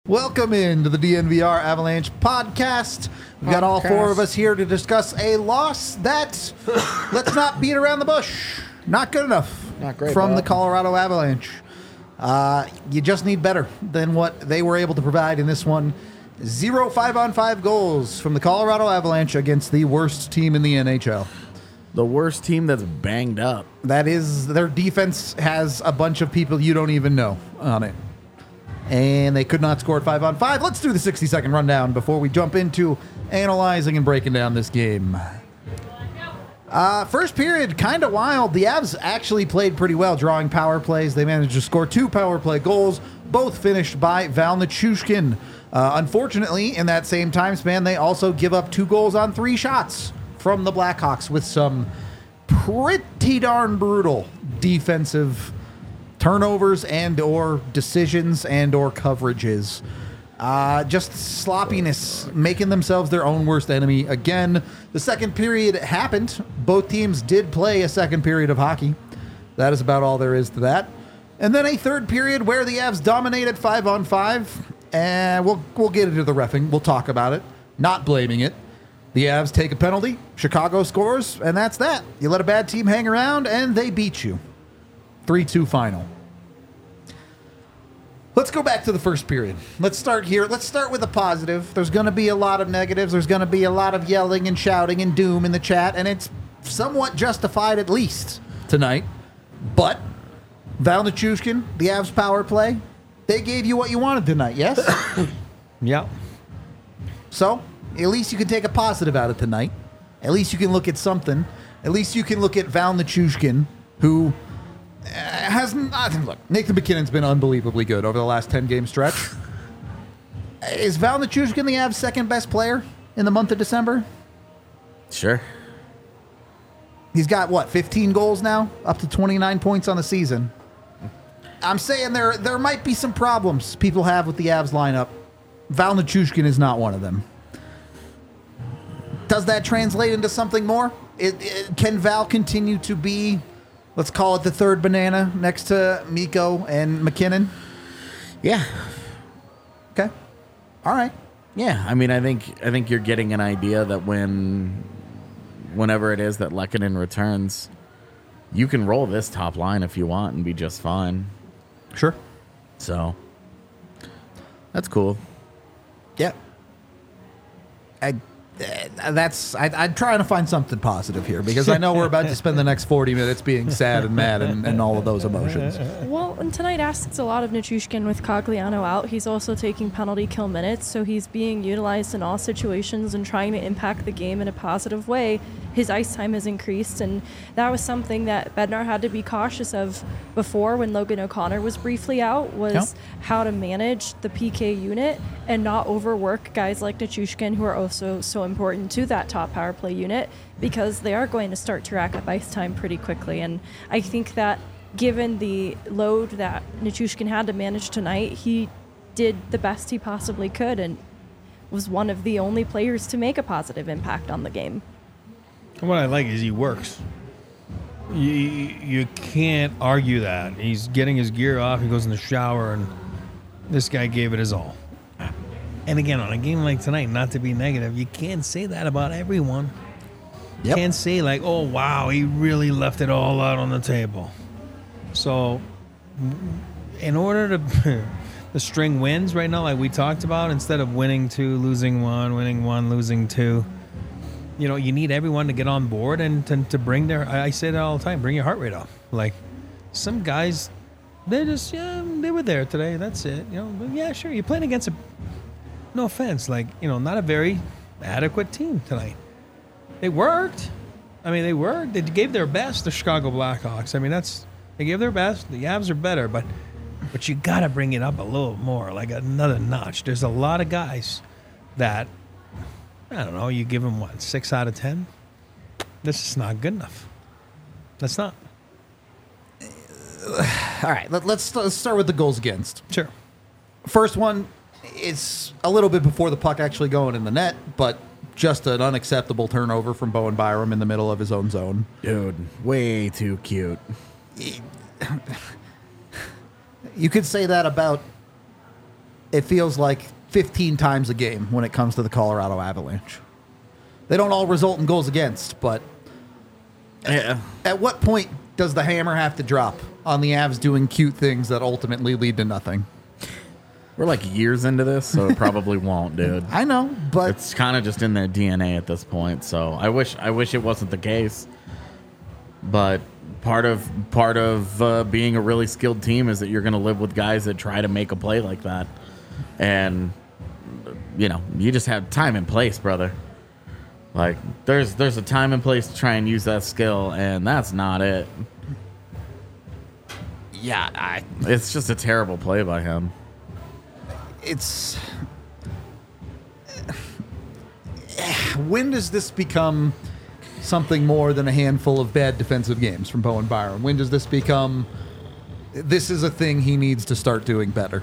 Welcome into the DNVR Avalanche podcast. We've got all four of us here to discuss a loss that, let's not beat around the bush, not good enough Not great, from Bob. the Colorado Avalanche. You just need better than what they were able to provide in this one. 0 5-on-5 goals from the Colorado Avalanche against the worst team in the NHL. The worst team that's banged up. That is, their defense has a bunch of people you don't even know on it. And they could not score at 5-on-5. Let's do the 60-second rundown before we jump into analyzing and breaking down this game. First period, kind of wild. The Avs actually played pretty well, drawing power plays. They managed to score 2 power play goals, both finished by Val Nichushkin. Unfortunately, in that same time span, they also give up 2 goals on 3 shots from the Blackhawks with some pretty darn brutal defensive turnovers and or decisions and or coverages. Just sloppiness, making themselves their own worst enemy again. The second period happened. Both teams did play a second period of hockey. That is about all there is to that. And then a third period where the Avs dominated 5-on-5. And we'll get into the reffing. We'll talk about it. Not blaming it. The Avs take a penalty. Chicago scores, and that's that. You let a bad team hang around, and they beat you. 3-2 final. Let's go back to the first period. Let's start here. Let's start with a positive. There's going to be a lot of negatives. There's going to be a lot of yelling and shouting and doom in the chat, and it's somewhat justified at least tonight. But Val Nichushkin, the Avs power play, they gave you what you wanted tonight, yes? Yeah. So, at least you can take a positive out of tonight. At least you can look at something. At least you can look at Val Nichushkin, who look, Nathan McKinnon's been unbelievably good over the last 10-game stretch. Is Val Nichushkin the Avs' second best player in the month of December? Sure. He's got, 15 goals now? Up to 29 points on the season. I'm saying there might be some problems people have with the Avs lineup. Val Nichushkin is not one of them. Does that translate into something more? Can Val continue to be, let's call it the third banana next to Mikko and McKinnon? Yeah. Okay. All right. Yeah. I mean, I think you're getting an idea that whenever it is that Lehkonen returns, you can roll this top line if you want and be just fine. Sure. So that's cool. Yeah. I'm trying to find something positive here because I know we're about to spend the next 40 minutes being sad and mad and all of those emotions. Well, and tonight asks a lot of Nichushkin with Cogliano out. He's also taking penalty kill minutes, so he's being utilized in all situations and trying to impact the game in a positive way. His ice time has increased, and that was something that Bednar had to be cautious of before when Logan O'Connor was briefly out, was how to manage the PK unit and not overwork guys like Nichushkin, who are also so important to that top power play unit, because they are going to start to rack up ice time pretty quickly. And I think that given the load that Nichushkin had to manage tonight, he did the best he possibly could and was one of the only players to make a positive impact on the game. And what I like is he works. You can't argue that. He's getting his gear off. He goes in the shower, and this guy gave it his all. And again, on a game like tonight, not to be negative, you can't say that about everyone. You can't say like, oh, wow, he really left it all out on the table. So in order to the string wins right now, like we talked about, instead of winning 2, losing 1, winning 1, losing 2, you need everyone to get on board and to bring their, I say that all the time, bring your heart rate up. Like some guys, they just, they were there today. That's it. Yeah, sure. You're playing against no offense, not a very adequate team tonight. They worked. They worked. They gave their best, the Chicago Blackhawks. They gave their best. The Avs are better, but you got to bring it up a little more, like another notch. There's a lot of guys that, I don't know, you give them, 6 out of 10? This is not good enough. That's not. All right, let's start with the goals against. Sure. First one is a little bit before the puck actually going in the net, but just an unacceptable turnover from Bowen Byram in the middle of his own zone. Dude, way too cute. You could say that about it feels like 15 times a game when it comes to the Colorado Avalanche. They don't all result in goals against, but Yeah. at what point does the hammer have to drop on the Avs doing cute things that ultimately lead to nothing? We're like years into this, so it probably won't, dude. I know, but It's kind of just in their DNA at this point. So I wish it wasn't the case. But part of being a really skilled team is that you're going to live with guys that try to make a play like that, and you just have time and place, brother. Like there's a time and place to try and use that skill, and that's not it. Yeah, it's just a terrible play by him. it's when does this become something more than a handful of bad defensive games from Bowen Byram? When does this become this is a thing he needs to start doing better?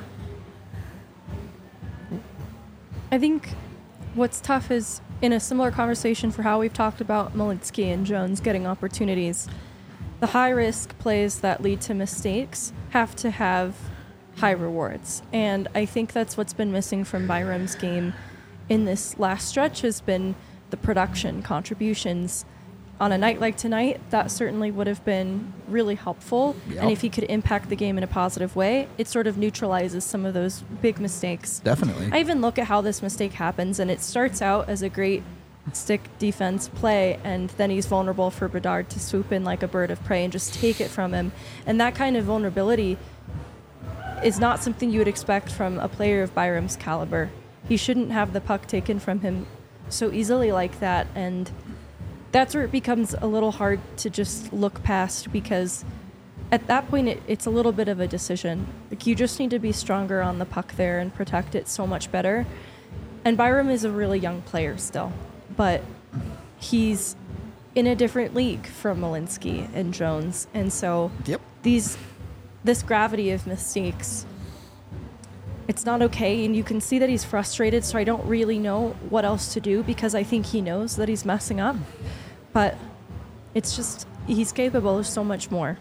I think what's tough is in a similar conversation for how we've talked about Malinsky and Jones getting opportunities, the high-risk plays that lead to mistakes have to have high rewards. And I think that's what's been missing from Byram's game in this last stretch has been the production contributions. On a night like tonight, that certainly would have been really helpful. Yep. And if he could impact the game in a positive way, it sort of neutralizes some of those big mistakes. Definitely. I even look at how this mistake happens, and it starts out as a great stick defense play, and then he's vulnerable for Bedard to swoop in like a bird of prey and just take it from him. And that kind of vulnerability is not something you would expect from a player of Byram's caliber. He shouldn't have the puck taken from him so easily like that, and that's where it becomes a little hard to just look past, because at that point it's a little bit of a decision. Like, you just need to be stronger on the puck there and protect it so much better. And Byram is a really young player still, but he's in a different league from Malinsky and Jones, and so Yep. this gravity of mistakes, it's not okay, and you can see that he's frustrated, so I don't really know what else to do, because I think he knows that he's messing up. But it's just, he's capable of so much more.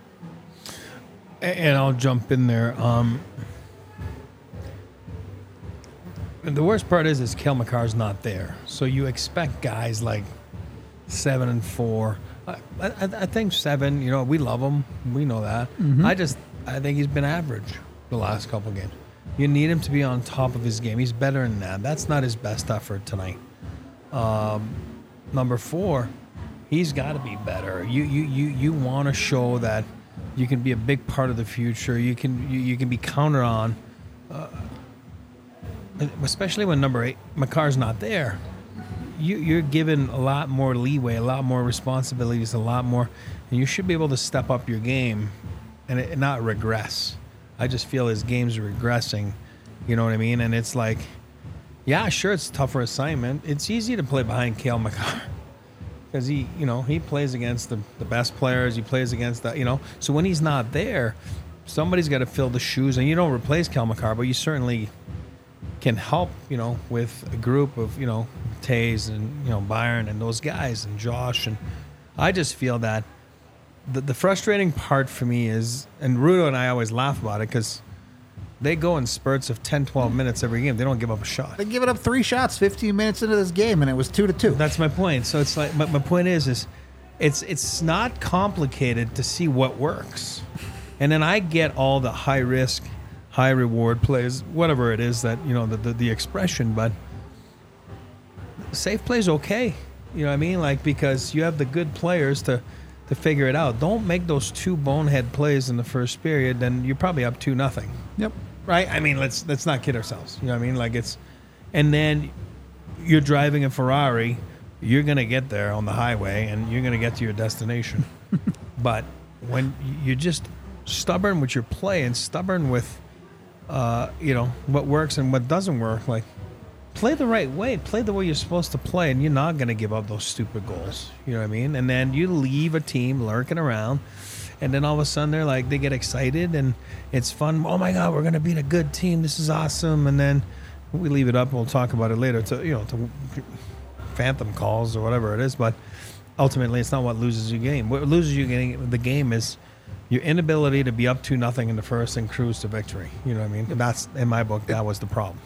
And I'll jump in there. The worst part is Cale Makar's not there. So you expect guys like 7 and 4. I think 7, we love him. We know that. Mm-hmm. I think he's been average the last couple games. You need him to be on top of his game. He's better than that. That's not his best effort tonight. Number 4, he's got to be better. You want to show that you can be a big part of the future. You can be counted on, especially when number 8 Makar's not there. You're given a lot more leeway, a lot more responsibilities, a lot more, and you should be able to step up your game and not regress. I just feel his game's regressing. You know what I mean? And it's like, yeah, sure, it's a tougher assignment. It's easy to play behind Cale Makar because he plays against the best players. He plays against that, So when he's not there, somebody's got to fill the shoes. And you don't replace Cale Makar, but you certainly can help, with a group of, Tays and, Byron and those guys and Josh. And I just feel that the frustrating part for me is, and Rudo and I always laugh about it because they go in spurts of 10, 12 minutes every game. They don't give up a shot. They give it up 3 shots 15 minutes into this game, and it was 2-2. That's my point. So it's like, my point is it's not complicated to see what works. And then I get all the high risk, high reward plays, whatever it is that, the expression, but safe play's okay. You know what I mean? Like, because you have the good players to figure it out. Don't make those 2 bonehead plays in the first period, then you're probably up 2-0. Yep. Right? I mean, let's not kid ourselves. You know what I mean? Like, and then you're driving a Ferrari, you're going to get there on the highway and you're going to get to your destination. But when you're just stubborn with your play and stubborn with, what works and what doesn't work, like, play the right way, play the way you're supposed to play, and you're not going to give up those stupid goals. You know what I mean? And then you leave a team lurking around, and then all of a sudden they get excited, and it's fun. Oh my God, we're going to beat a good team. This is awesome. And then we leave it up. We'll talk about it later to phantom calls or whatever it is. But ultimately, it's not what loses you game. What loses you the game is your inability to be up 2-0 in the first and cruise to victory. You know what I mean? That's, in my book, that was the problem.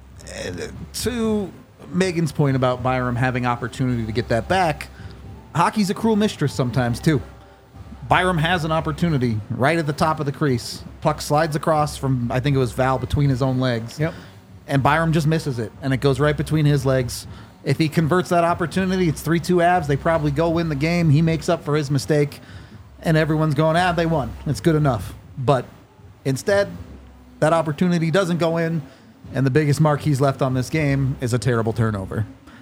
To Megan's point about Byram having opportunity to get that back, hockey's a cruel mistress sometimes too. Byram has an opportunity right at the top of the crease. Puck slides across from, I think it was Val, between his own legs. Yep. And Byram just misses it, and it goes right between his legs. If he converts that opportunity, it's 3-2 Avs. They probably go win the game. He makes up for his mistake, and everyone's going, they won. It's good enough. But instead, that opportunity doesn't go in, and the biggest mark he's left on this game is a terrible turnover.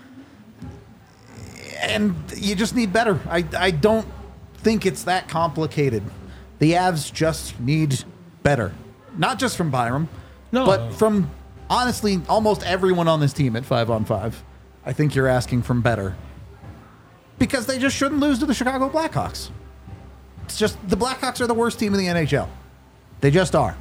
And you just need better. I don't think it's that complicated. The Avs just need better. Not just from Byram, but from, honestly, almost everyone on this team at 5-on-5. I think you're asking from better. Because they just shouldn't lose to the Chicago Blackhawks. It's just, the Blackhawks are the worst team in the NHL. They just are.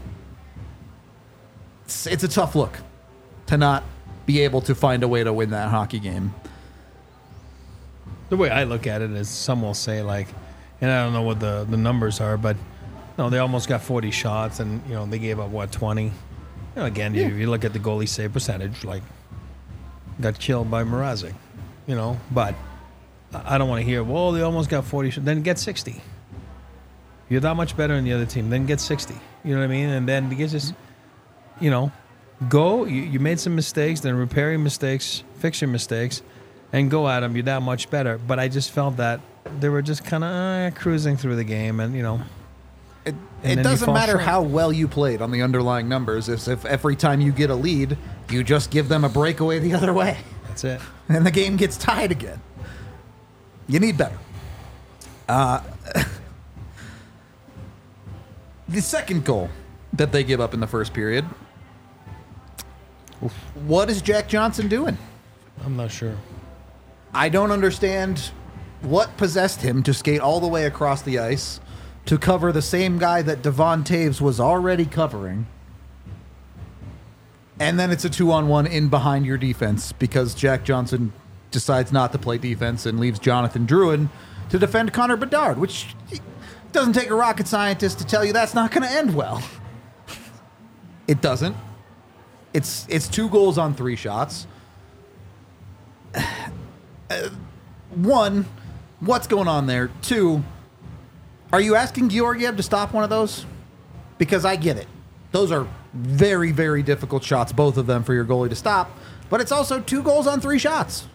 It's a tough look to not be able to find a way to win that hockey game. The way I look at it is some will say, like, and I don't know what the numbers are, but no, they almost got 40 shots, and they gave up 20. Again, you look at the goalie save percentage, like, got killed by Mrazek, But I don't want to hear, well, they almost got 40 shots. Then get 60. You're that much better than the other team. Then get 60. You know what I mean? And then you just, go. You made some mistakes, then repair your mistakes, fix your mistakes, and go at them. You're that much better. But I just felt that they were just kind of cruising through the game, and It doesn't matter how well you played on the underlying numbers if every time you get a lead, you just give them a breakaway the other way. That's it. And the game gets tied again. You need better. The second goal that they give up in the first period, what is Jack Johnson doing? I'm not sure. I don't understand what possessed him to skate all the way across the ice to cover the same guy that Devon Taves was already covering. And then it's a 2-on-1 in behind your defense because Jack Johnson decides not to play defense and leaves Jonathan Drouin to defend Connor Bedard, which doesn't take a rocket scientist to tell you that's not going to end well. It doesn't. It's 2 goals on 3 shots. One, what's going on there? 2, are you asking Georgiev to stop one of those? Because I get it. Those are very, very difficult shots, both of them, for your goalie to stop. But it's also 2 goals on 3 shots.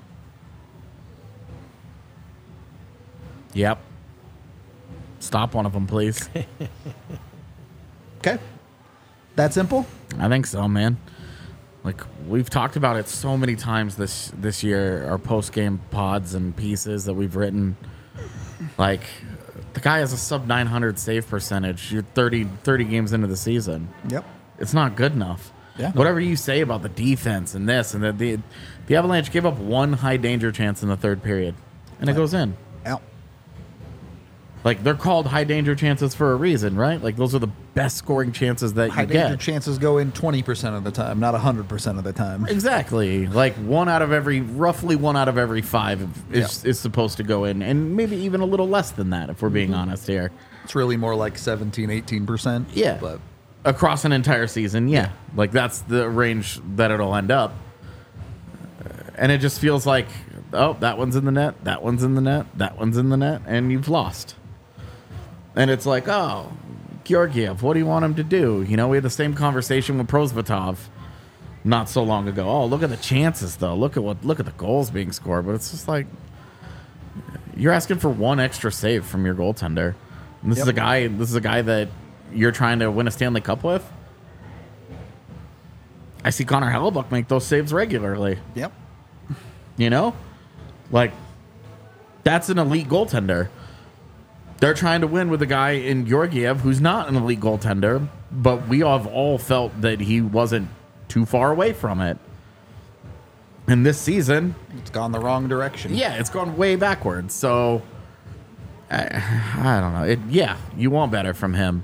Yep. Stop one of them, please. Okay? That simple? I think so, man. Like, we've talked about it so many times this year, our post-game pods and pieces that we've written. Like, the guy has a sub-900 save percentage. You're 30 games into the season. Yep. It's not good enough. Yeah. Whatever you say about the defense and this and that, the Avalanche gave up 1 high-danger chance in the third period, and it goes in. Out. Like, they're called high-danger chances for a reason, right? Like, those are the best scoring chances that you High-danger get. chances go in 20% of the time, not 100% of the time. Exactly. Like, roughly 1 out of every 5 is supposed to go in, and maybe even a little less than that, if we're being honest here. It's really more like 17, 18%. Yeah. But Across an entire season, yeah. Like, that's the range that it'll end up. And it just feels like, oh, that one's in the net, that one's in the net, that one's in the net, and you've lost. And it's like, oh, Georgiev, what do you want him to do? We had the same conversation with Prosvetov not so long ago. Oh, look at the chances, though. Look at the goals being scored. But it's just like, you're asking for 1 extra save from your goaltender. And this is a guy that you're trying to win a Stanley Cup with. I see Connor Hellebuck make those saves regularly. Yep. Like, that's an elite goaltender. They're trying to win with a guy in Georgiev who's not an elite goaltender, but we have all felt that he wasn't too far away from it. And this season, It's gone the wrong direction. yeah, it's gone way backwards. So, I don't know. You want better from him.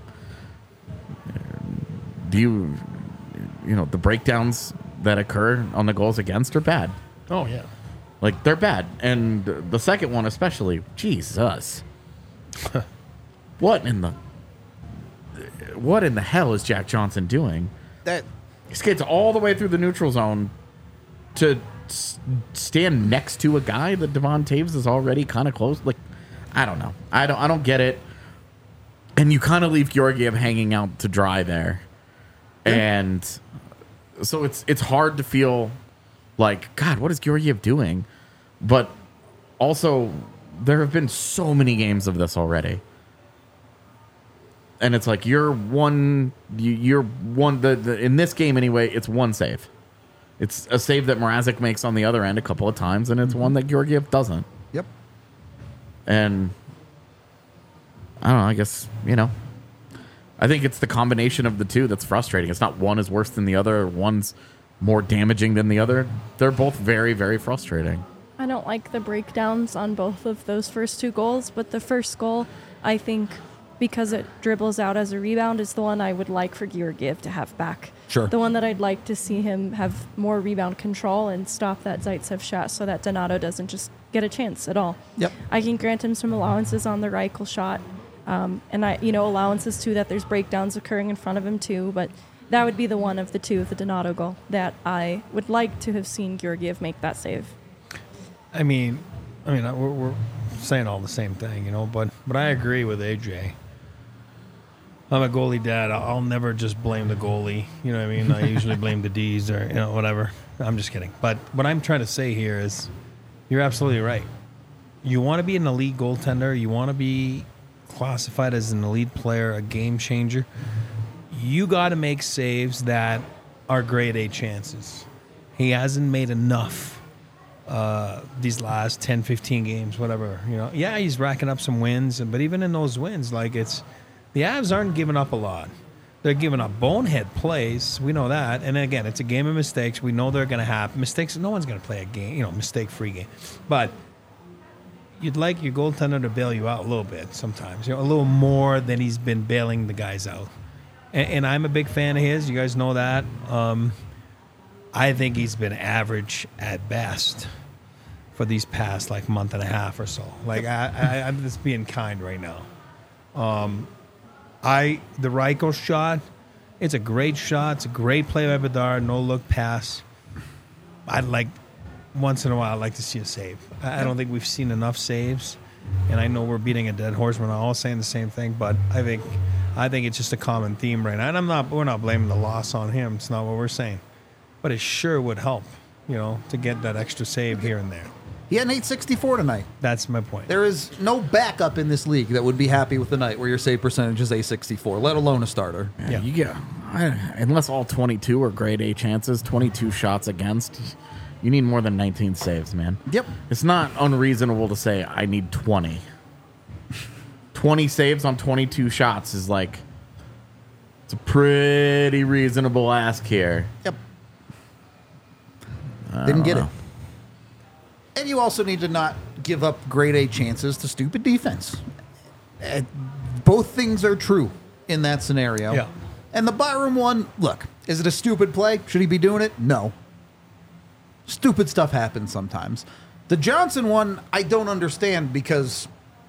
Do the breakdowns that occur on the goals against are bad. Oh, yeah. Like, they're bad. And the second one especially, Jesus. What in the... what in the hell is Jack Johnson doing? That He skates all the way through the neutral zone to stand next to a guy that Devon Taves is already kind of close. Like, I don't know. I don't get it. And you kind of leave Georgiev hanging out to dry there. And so it's hard to feel like, God, what is Georgiev doing? But also, there have been so many games of this already. And it's like you're one in this game anyway, it's one save. It's a save that Mrazek makes on the other end a couple of times, and it's one that Georgiev doesn't. Yep. And I don't know, I guess, I think it's the combination of the two that's frustrating. It's not one is worse than the other, one's more damaging than the other. They're both very, very frustrating. I don't like the breakdowns on both of those first two goals, but the first goal, I think, because it dribbles out as a rebound, is the one I would like for Georgiev to have back. Sure. The one that I'd like to see him have more rebound control and stop that Zaitsev shot so that Donato doesn't just get a chance at all. Yep. I can grant him some allowances on the Reichel shot, and allowances too that there's breakdowns occurring in front of him too, but that would be the one of the two, the Donato goal, that I would like to have seen Georgiev make that save. I mean, we're saying all the same thing, but I agree with AJ. I'm a goalie dad. I'll never just blame the goalie. You know what I mean? I usually blame the D's or, whatever. I'm just kidding. But what I'm trying to say here is you're absolutely right. You want to be an elite goaltender. You want to be classified as an elite player, a game changer. You got to make saves that are grade A chances. He hasn't made enough these last 10, 15 games, whatever. Yeah, he's racking up some wins. But even in those wins, the Avs aren't giving up a lot. They're giving up bonehead plays. We know that. And again, it's a game of mistakes. We know they're going to happen. Mistakes, no one's going to play a game, mistake-free game. But you'd like your goaltender to bail you out a little bit sometimes, a little more than he's been bailing the guys out. And I'm a big fan of his. You guys know that. I think he's been average at best for these past, month and a half or so. I'm just being kind right now. The Reichel shot, it's a great shot. It's a great play by Bedard, no look pass. Once in a while, I'd like to see a save. I don't think we've seen enough saves, and I know we're beating a dead horse. We're not all saying the same thing, but I think it's just a common theme right now. And we're not blaming the loss on him. It's not what we're saying, but it sure would help, to get that extra save here and there. He had an 864 tonight. That's my point. There is no backup in this league that would be happy with the night where your save percentage is 864, let alone a starter. Yeah. You get, unless all 22 are grade A chances, 22 shots against, you need more than 19 saves, man. Yep. It's not unreasonable to say I need 20. 20 saves on 22 shots is it's a pretty reasonable ask here. Yep. Didn't get it. And you also need to not give up grade A chances to stupid defense. Both things are true in that scenario. Yeah. And the Byram one, look, is it a stupid play? Should he be doing it? No. Stupid stuff happens sometimes. The Johnson one, I don't understand because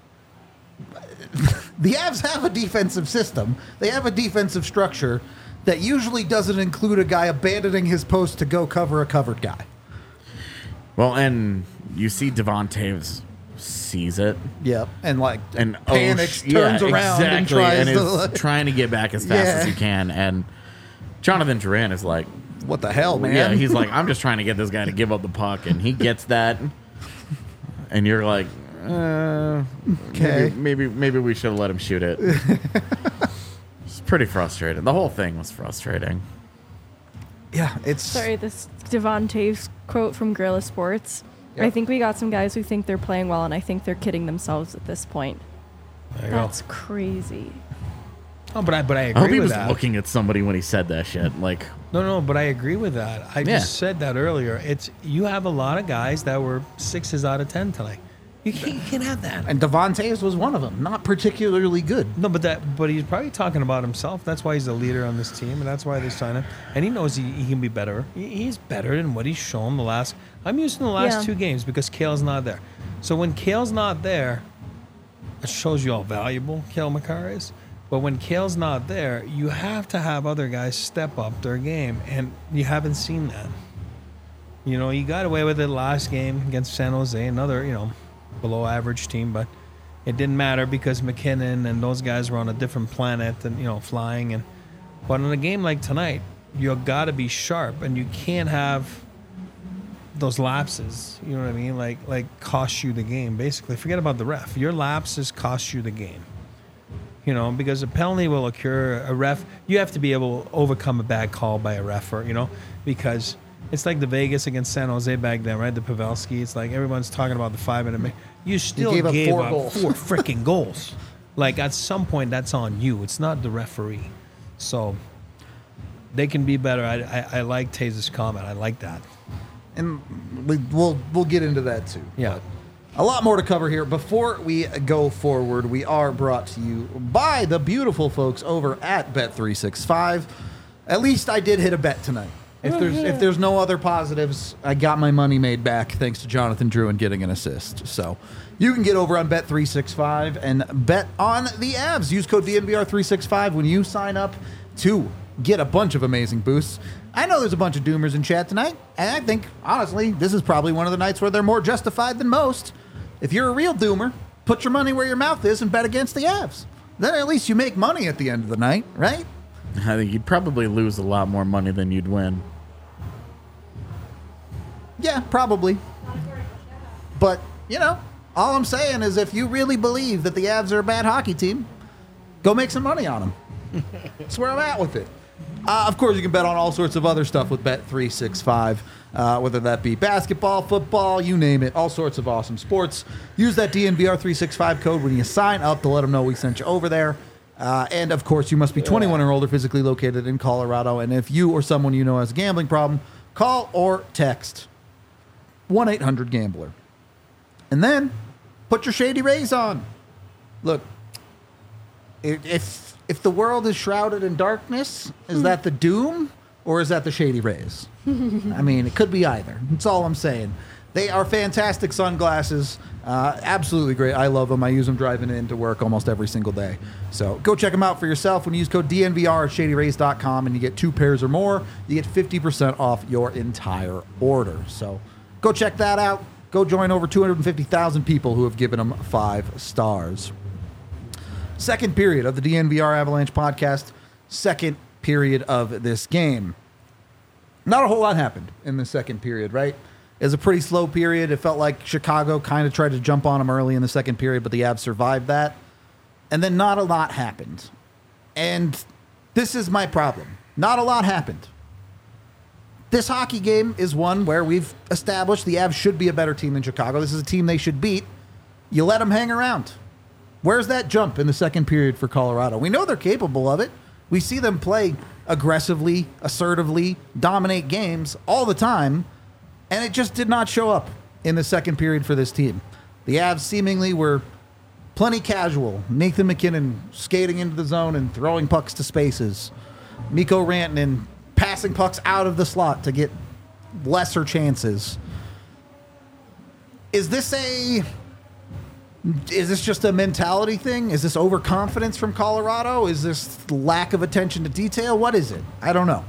the Avs have a defensive system. They have a defensive structure that usually doesn't include a guy abandoning his post to go cover a covered guy. Well, and you see Devon Taves sees it. Yep. And panics, yeah, turns around exactly, and tries is trying to get back as fast as he can. And Jonathan Drouin is like, what the hell, man? Yeah, he's like, I'm just trying to get this guy to give up the puck. And he gets that. And you're like, okay. Maybe we should have let him shoot it. It's pretty frustrating. The whole thing was frustrating. Yeah, it's... Sorry, this Devon Taves quote from Guerrilla Sports. Yep. I think we got some guys who think they're playing well, and I think they're kidding themselves at this point. That's crazy. Oh, but I agree I hope he with was that. looking at somebody when he said that shit. No, but I agree with that. I just said that earlier. You have a lot of guys that were 6s out of 10 tonight. You can't have that. And Devon Taves was one of them. Not particularly good. No, but he's probably talking about himself. That's why he's the leader on this team, and that's why they signed him. And he knows he can be better. He's better than what he's shown the last. I'm using the last 2 games because Kale's not there. So when Kale's not there, it shows you how valuable Cale Makar is. But when Kale's not there, you have to have other guys step up their game, and you haven't seen that. You know, you got away with it last game against San Jose, another, below average team, but it didn't matter because McKinnon and those guys were on a different planet and, flying. But in a game like tonight, you got to be sharp, and you can't have those lapses, you know what I mean? Like cost you the game, basically. Forget about the ref. Your lapses cost you the game. Because a penalty will occur. A ref, you have to be able to overcome a bad call by a ref, because it's like the Vegas against San Jose back then, right? The Pavelski. It's like everyone's talking about the 5-minute. You still gave up 4 goals. 4 freaking goals. Like at some point, that's on you. It's not the referee. So they can be better. I like Taze's comment. I like that. And we'll get into that too. Yeah. But a lot more to cover here. Before we go forward, we are brought to you by the beautiful folks over at Bet365. At least I did hit a bet tonight. If there's no other positives, I got my money made back thanks to Jonathan Drew and getting an assist. So you can get over on Bet365 and bet on the Avs. Use code DNVR365 when you sign up to get a bunch of amazing boosts. I know there's a bunch of doomers in chat tonight, and I think, honestly, this is probably one of the nights where they're more justified than most. If you're a real doomer, put your money where your mouth is and bet against the Avs. Then at least you make money at the end of the night, right? I think you'd probably lose a lot more money than you'd win. Yeah, probably. But, all I'm saying is if you really believe that the Avs are a bad hockey team, go make some money on them. That's where I'm at with it. Of course, you can bet on all sorts of other stuff with Bet365, whether that be basketball, football, you name it, all sorts of awesome sports. Use that DNVR365 code when you sign up to let them know we sent you over there. And, of course, you must be 21 or older, physically located in Colorado. And if you or someone you know has a gambling problem, call or text 1-800-GAMBLER. And then put your Shady Rays on. Look, if the world is shrouded in darkness, is that the doom or is that the Shady Rays? I mean, it could be either. That's all I'm saying. They are fantastic sunglasses. Absolutely great. I love them. I use them driving into work almost every single day. So go check them out for yourself. When you use code DNVR at ShadyRays.com and you get 2 pairs or more, you get 50% off your entire order. So go check that out. Go join over 250,000 people who have given them 5 stars. Second period of the DNVR Avalanche podcast. Second period of this game. Not a whole lot happened in the second period, right? It was a pretty slow period. It felt like Chicago kind of tried to jump on them early in the second period, but the Avs survived that. And then not a lot happened. And this is my problem. Not a lot happened. This hockey game is one where we've established the Avs should be a better team than Chicago. This is a team they should beat. You let them hang around. Where's that jump in the second period for Colorado? We know they're capable of it. We see them play aggressively, assertively, dominate games all the time, and it just did not show up in the second period for this team. The Avs seemingly were plenty casual. Nathan McKinnon skating into the zone and throwing pucks to spaces. Mikko Rantanen passing pucks out of the slot to get lesser chances. Is this just a mentality thing? Is this overconfidence from Colorado? Is this lack of attention to detail? What is it? I don't know.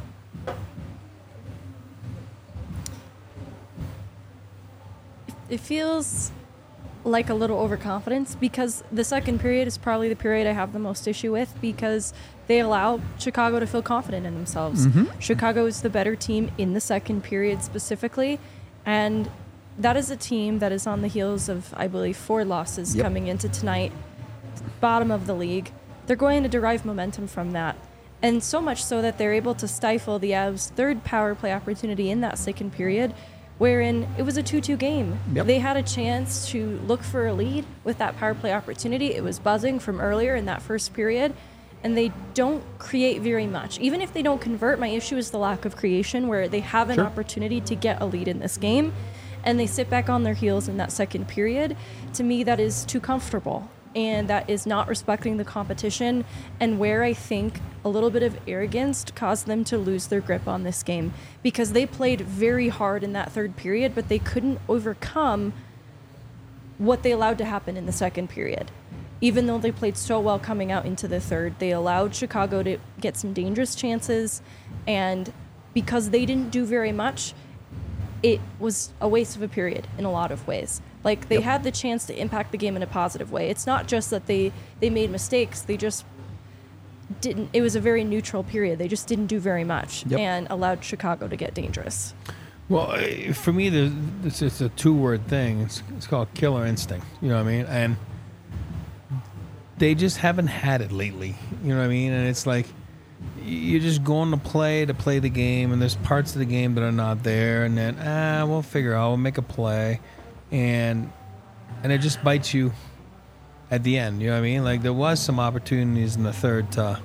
It feels like a little overconfidence because the second period is probably the period I have the most issue with because they allow Chicago to feel confident in themselves. Mm-hmm. Chicago is the better team in the second period specifically, and that is a team that is on the heels of, I believe, 4 losses coming into tonight, bottom of the league. They're going to derive momentum from that. And so much so that they're able to stifle the Avs' third power play opportunity in that second period, wherein it was a 2-2 game. Yep. They had a chance to look for a lead with that power play opportunity. It was buzzing from earlier in that first period, and they don't create very much. Even if they don't convert, my issue is the lack of creation, where they have an opportunity to get a lead in this game, and they sit back on their heels in that second period. To me, that is too comfortable, and that is not respecting the competition, and where I think a little bit of arrogance caused them to lose their grip on this game, because they played very hard in that third period, but they couldn't overcome what they allowed to happen in the second period. even though they played so well coming out into the third, they allowed Chicago to get some dangerous chances, and because they didn't do very much, it was a waste of a period in a lot of ways. Like, they had the chance to impact the game in a positive way. It's not just that they made mistakes, they just didn't. It was a very neutral period. They just didn't do very much and allowed Chicago to get dangerous. Well, for me, it's a two-word thing. It's called killer instinct. You know what I mean? And they just haven't had it lately. You know what I mean? And it's like you're just going to play the game, and there's parts of the game that are not there, and then we'll figure out, we'll make a play, and it just bites you at the end. You know what I mean? Like, there was some opportunities in the third to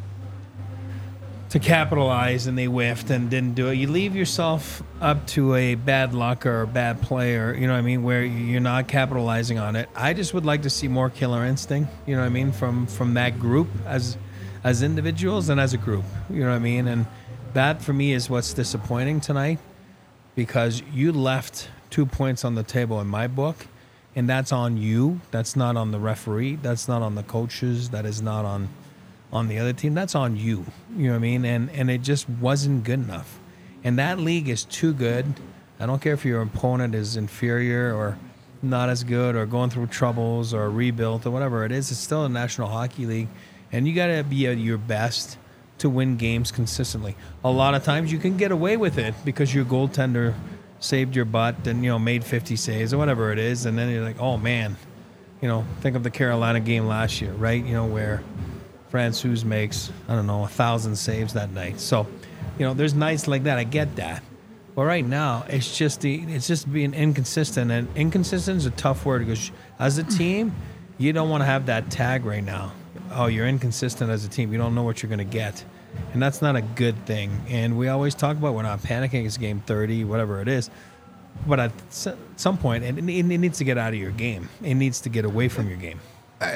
capitalize, and they whiffed and didn't do it. You leave yourself up to a bad luck or a bad play, or, you know what I mean, where you're not capitalizing on it. I just would like to see more killer instinct, you know what I mean, from that group as individuals and as a group, you know what I mean? And that, for me, is what's disappointing tonight, because you left 2 points on the table in my book, and that's on you. That's not on the referee. That's not on the coaches. That is not on the other team. That's on you. You know what I mean? And it just wasn't good enough. And that league is too good. I don't care if your opponent is inferior or not as good or going through troubles or rebuilt or whatever it is. It's still a National Hockey League. And you got to be at your best to win games consistently. A lot of times you can get away with it because your goaltender saved your butt and, you know, made 50 saves or whatever it is. And then you're like, oh, man. You know, think of the Carolina game last year, right? You know, where Francouz makes, 1,000 saves that night. So, you know, there's nights like that. I get that. But right now, it's just being inconsistent. And inconsistent is a tough word, because as a team, you don't want to have that tag right now. Oh, you're inconsistent as a team. You don't know what you're going to get. And that's not a good thing. And we always talk about we're not panicking. It's game 30, whatever it is. But at some point, it needs to get out of your game. It needs to get away from your game.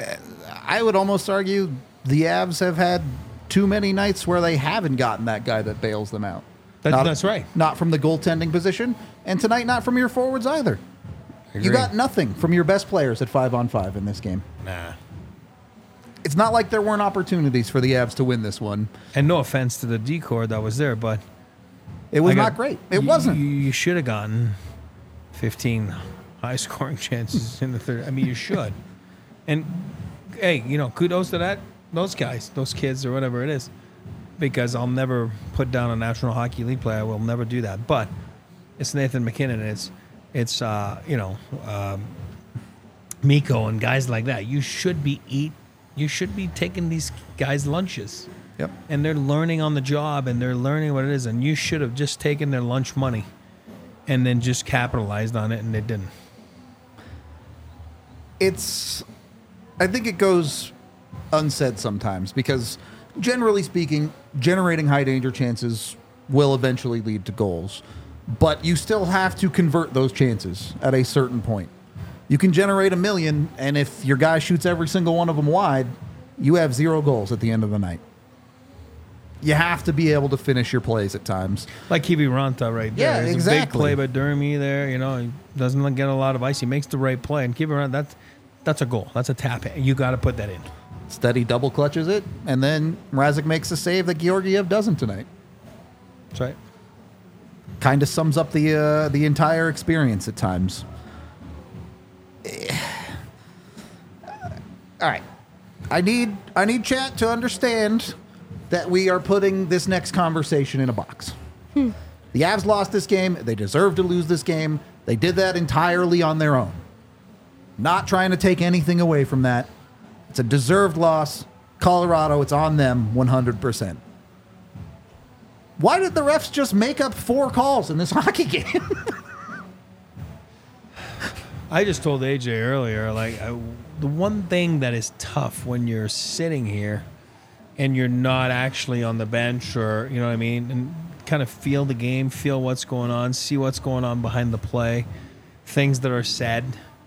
I would almost argue the Avs have had too many nights where they haven't gotten that guy that bails them out. That's right. Not from the goaltending position, and tonight not from your forwards either. You got nothing from your best players at 5-on-5 in this game. Nah. It's not like there weren't opportunities for the Avs to win this one. And no offense to the D-Corps that was there, but it was not great. It wasn't. You should have gotten 15 high-scoring chances in the third. I mean, you should. And, hey, you know, kudos to those guys, those kids, or whatever it is, because I'll never put down a National Hockey League player. I will never do that. But it's Nathan MacKinnon. It's Mikko and guys like that. You should be taking these guys lunches. Yep. And they're learning on the job, and they're learning what it is. And you should have just taken their lunch money and then just capitalized on it, and they didn't. I think it goes unsaid sometimes, because generally speaking, generating high danger chances will eventually lead to goals. But you still have to convert those chances at a certain point. You can generate 1 million, and if your guy shoots every single one of them wide, you have 0 goals at the end of the night. You have to be able to finish your plays at times. Like Kiviranta right there. Yeah, it's exactly. a big play by Dermy there. You know, he doesn't get a lot of ice. He makes the right play. And Kiviranta, that's a goal. That's a tap. You got to put that in. Steady double clutches it, and then Mrazek makes a save that Georgiev doesn't tonight. That's right. Kind of sums up the entire experience at times. All right. I need chat to understand that we are putting this next conversation in a box. The Avs lost this game. They deserve to lose this game. They did that entirely on their own. Not trying to take anything away from that. It's a deserved loss. Colorado, it's on them 100%. Why did the refs just make up 4 calls in this hockey game? I just told AJ earlier, the one thing that is tough when you're sitting here and you're not actually on the bench, or, you know what I mean, and kind of feel the game, feel what's going on, see what's going on behind the play, things that are said.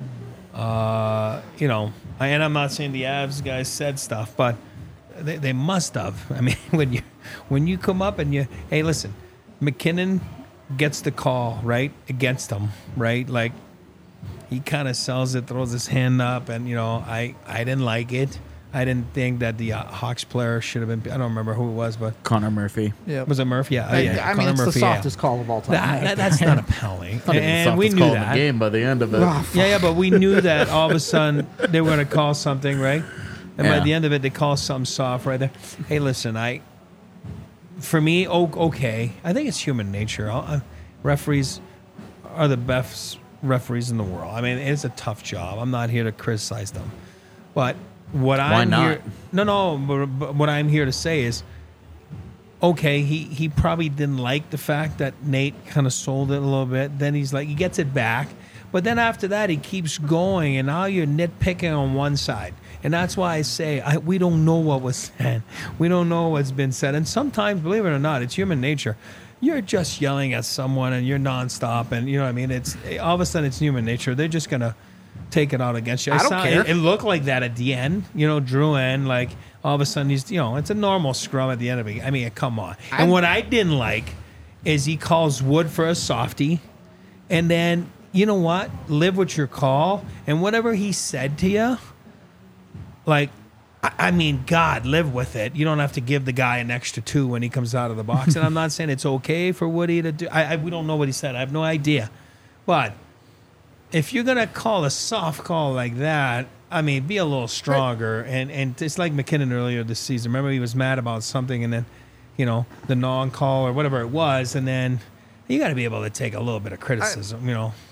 You know, and I'm not saying the Avs guys said stuff, but they must have. I mean, when you come up and hey, listen, MacKinnon gets the call, right, against them, right? Like, he kind of sells it, throws his hand up, and I didn't like it. I didn't think that the Hawks player should have been. I don't remember who it was, but Connor Murphy. Yeah. was it Murphy? Yeah, I mean, Connor it's Murphy, the softest call of all time. That's not a penalty, Not even and we softest knew call in that. the game by the end of it. Yeah, but we knew that all of a sudden they were going to call something, right? And by Yeah. the end of it, they call something soft right there. Hey, listen, for me, okay. I think it's human nature. Referees are the best referees in the world. I mean, it's a tough job. I'm not here to criticize them, but what I'm not? here, but what I'm here to say is, okay, he probably didn't like the fact that Nate kind of sold it a little bit. Then he's like, he gets it back. But then after that, he keeps going, and now you're nitpicking on one side. And that's why I say we don't know what was said. We don't know what's been said. And sometimes, believe it or not, it's human nature. You're just yelling at someone, and you're nonstop, and you know what I mean? It's all of a sudden, it's human nature. They're just going to take it out against you. I don't care. It looked like that at the end. Drouin, like, all of a sudden, he's, it's a normal scrum at the end of it. I mean, come on. And what I didn't like is he calls Wood for a softie, and then, you know what? Live with your call, and whatever he said to you, like, I mean, God, live with it. You don't have to give the guy an extra 2 when he comes out of the box. And I'm not saying it's okay for Woody to do. We don't know what he said. I have no idea. But if you're gonna call a soft call like that, I mean, be a little stronger. And it's like McKinnon earlier this season. Remember, he was mad about something, and then, the non-call or whatever it was, and then you got to be able to take a little bit of criticism.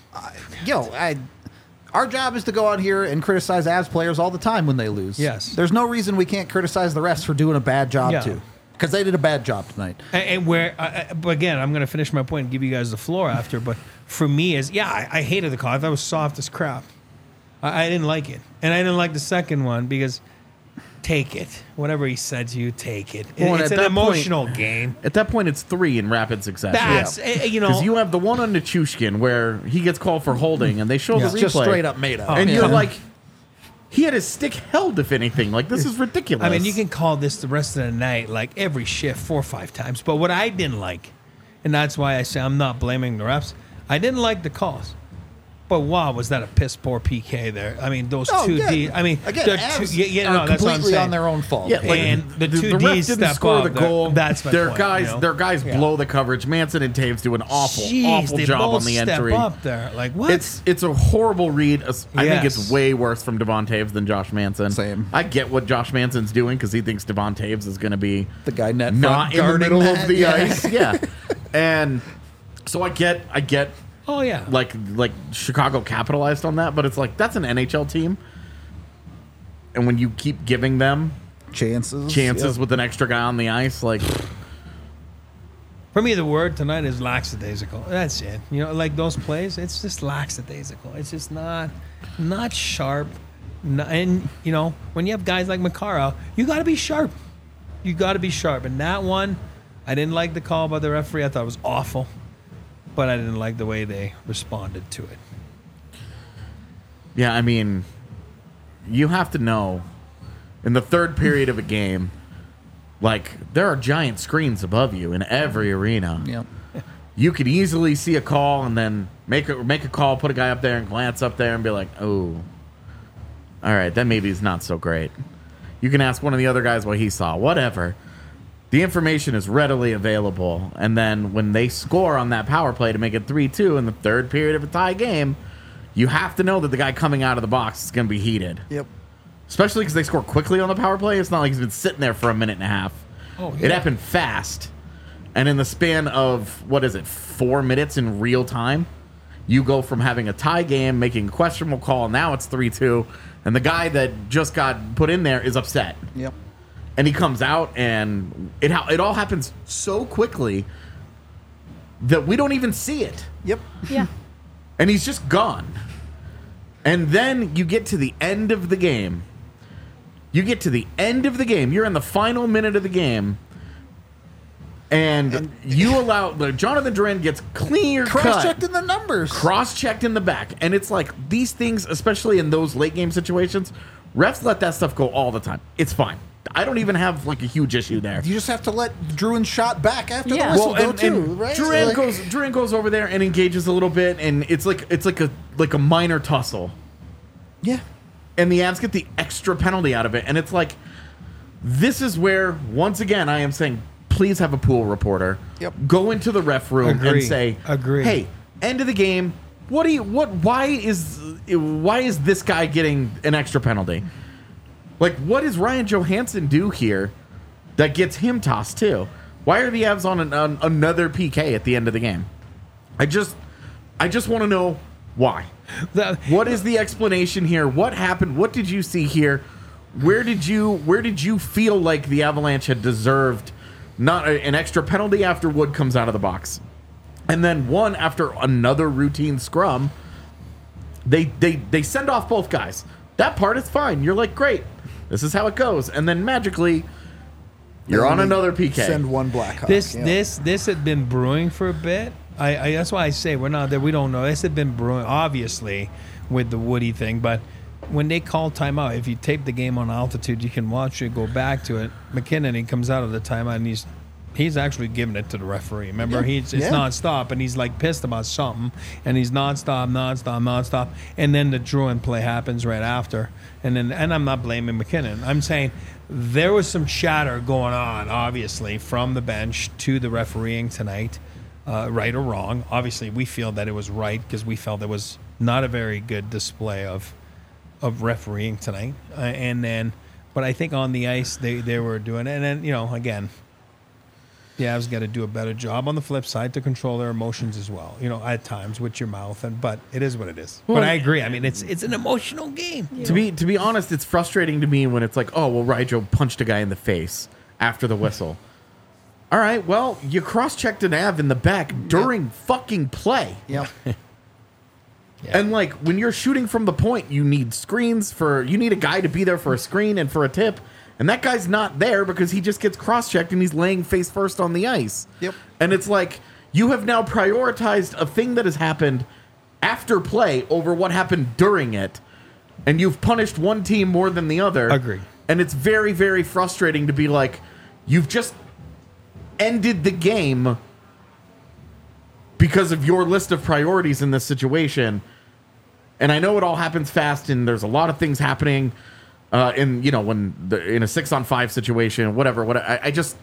Our job is to go out here and criticize Avs players all the time when they lose. Yes. There's no reason we can't criticize the refs for doing a bad job, Yeah. too. Because they did a bad job tonight. And but again, I'm going to finish my point and give you guys the floor after. But for me, I hated the call. I thought it was soft as crap. I didn't like it. And I didn't like the second one because take it. Whatever he said to you, take it. Well, It's at an that point- emotional game. At that point, it's 3 in rapid succession. That's, Because you have the one on Nichushkin where he gets called for holding, and they show the It's replay. just straight up made up. And yeah. you're like, he had his stick held, if anything. Like, this is ridiculous. I mean, you can call this the rest of the night, like every shift, 4 or 5 times. But what I didn't like, and that's why I say I'm not blaming the refs, I didn't like the calls. But wow, was that a piss poor PK there? I mean, those two D. I mean, again, the Avs two, are that's what I'm completely saying. on their own fault. Yeah, like, And the two ref Ds didn't step score up. the goal. That's my their point, guys, their guys blow the coverage. Manson and Taves do an awful they job both on the step entry. up there. Like what? It's a horrible read. I think Yes. it's way worse from Devon Taves than Josh Manson. Same. I get what Josh Manson's doing because he thinks Devon Taves is going to be The guy net not front in the guarding middle that. of the Yeah. ice. Yeah, and so I get. oh yeah. Like Chicago capitalized on that, but it's like that's an NHL team, and when you keep giving them Chances. chances with an extra guy on the ice, like For me, the word tonight is lackadaisical. That's it. Like those plays, it's just lackadaisical. It's just not sharp. And when you have guys like Makara, you got to be sharp. You got to be sharp. And that one, I didn't like the call by the referee. I thought it was awful, but I didn't like the way they responded to it. yeah, I mean, you have to know in the third period of a game, like there are giant screens above you in every arena. Yep. You could easily see a call and then make a call, put a guy up there and glance up there and be like, oh, all right, that maybe is not so great. You can ask one of the other guys what he saw, whatever. The information is readily available. And then when they score on that power play to make it 3-2 in the third period of a tie game, you have to know that the guy coming out of the box is going to be heated. Yep. Especially because they score quickly on the power play. It's not like he's been sitting there for a minute and a half. Oh, It happened fast. And in the span of, 4 minutes in real time, you go from having a tie game, making a questionable call, now it's 3-2, and the guy that just got put in there is upset. Yep. And he comes out, and it all happens so quickly that we don't even see it. Yep. Yeah. And he's just gone. And then you get to the end of the game. You're in the final minute of the game. And you allow Jonathan Drouin gets clear Cross-checked cut, in the numbers. cross-checked in the back, and it's like these things, especially in those late game situations, refs let that stuff go all the time. It's fine. I don't even have like a huge issue there. You just have to let Druin shot back after Yeah. the whistle Well, go too, right? Druin goes over there and engages a little bit, and it's like a minor tussle, yeah. and the Avs get the extra penalty out of it, and it's like, this is where once again I am saying, please have a pool reporter. Yep. Go into the ref room and Agree. say, Agree. hey, end of the game. Why is this guy getting an extra penalty? Like, what does Ryan Johansson do here that gets him tossed too? Why are the Avs on another PK at the end of the game? I just want to know why. What is the explanation here? What happened? What did you see here? Where did you feel like the Avalanche had deserved not an extra penalty after Wood comes out of the box, and then one after another routine scrum? They send off both guys. That part is fine. You're like, great, this is how it goes, and then magically you're on another PK. Send one Blackhawk. This had been brewing for a bit. I that's why I say we're not there. We don't know. This had been brewing, obviously, with the Woody thing. But when they call timeout, if you tape the game on altitude, you can watch it, go back to it. McKinnon, he comes out of the timeout and he's actually giving it to the referee. Remember, it's nonstop, and he's like pissed about something, and he's nonstop, and then the Druin play happens right after, and I'm not blaming McKinnon. I'm saying there was some chatter going on, obviously, from the bench to the refereeing tonight, right or wrong. Obviously, we feel that it was right because we felt it was not a very good display of refereeing tonight, but I think on the ice they were doing it, and then again. The Avs got to do a better job on the flip side to control their emotions as well. At times with your mouth, but it is what it is. Well, but I agree. I mean, it's an emotional game. To be honest, it's frustrating to me when it's like, oh well, Ryjo punched a guy in the face after the whistle. All right, well, you cross-checked an Av in the back during fucking play. Yep. And like when you're shooting from the point, you need screens you need a guy to be there for a screen and for a tip. And that guy's not there because he just gets cross-checked and he's laying face first on the ice. Yep. And it's like you have now prioritized a thing that has happened after play over what happened during it. And you've punished one team more than the other. Agree. And it's very, very frustrating to be like, you've just ended the game because of your list of priorities in this situation. And I know it all happens fast and there's a lot of things happening in a 6-on-5 situation, whatever. I just,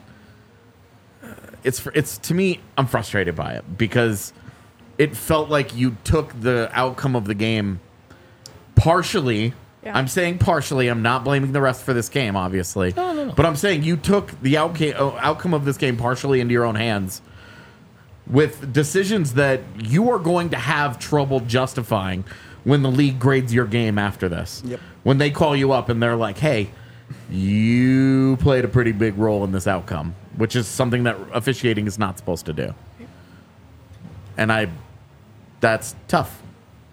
it's to me, I'm frustrated by it because it felt like you took the outcome of the game partially. Yeah. I'm saying partially. I'm not blaming the rest for this game, obviously. No. But I'm saying you took the outcome of this game partially into your own hands with decisions that you are going to have trouble justifying when the league grades your game after this. Yep. When they call you up and they're like, hey, you played a pretty big role in this outcome, which is something that officiating is not supposed to do. And that's tough.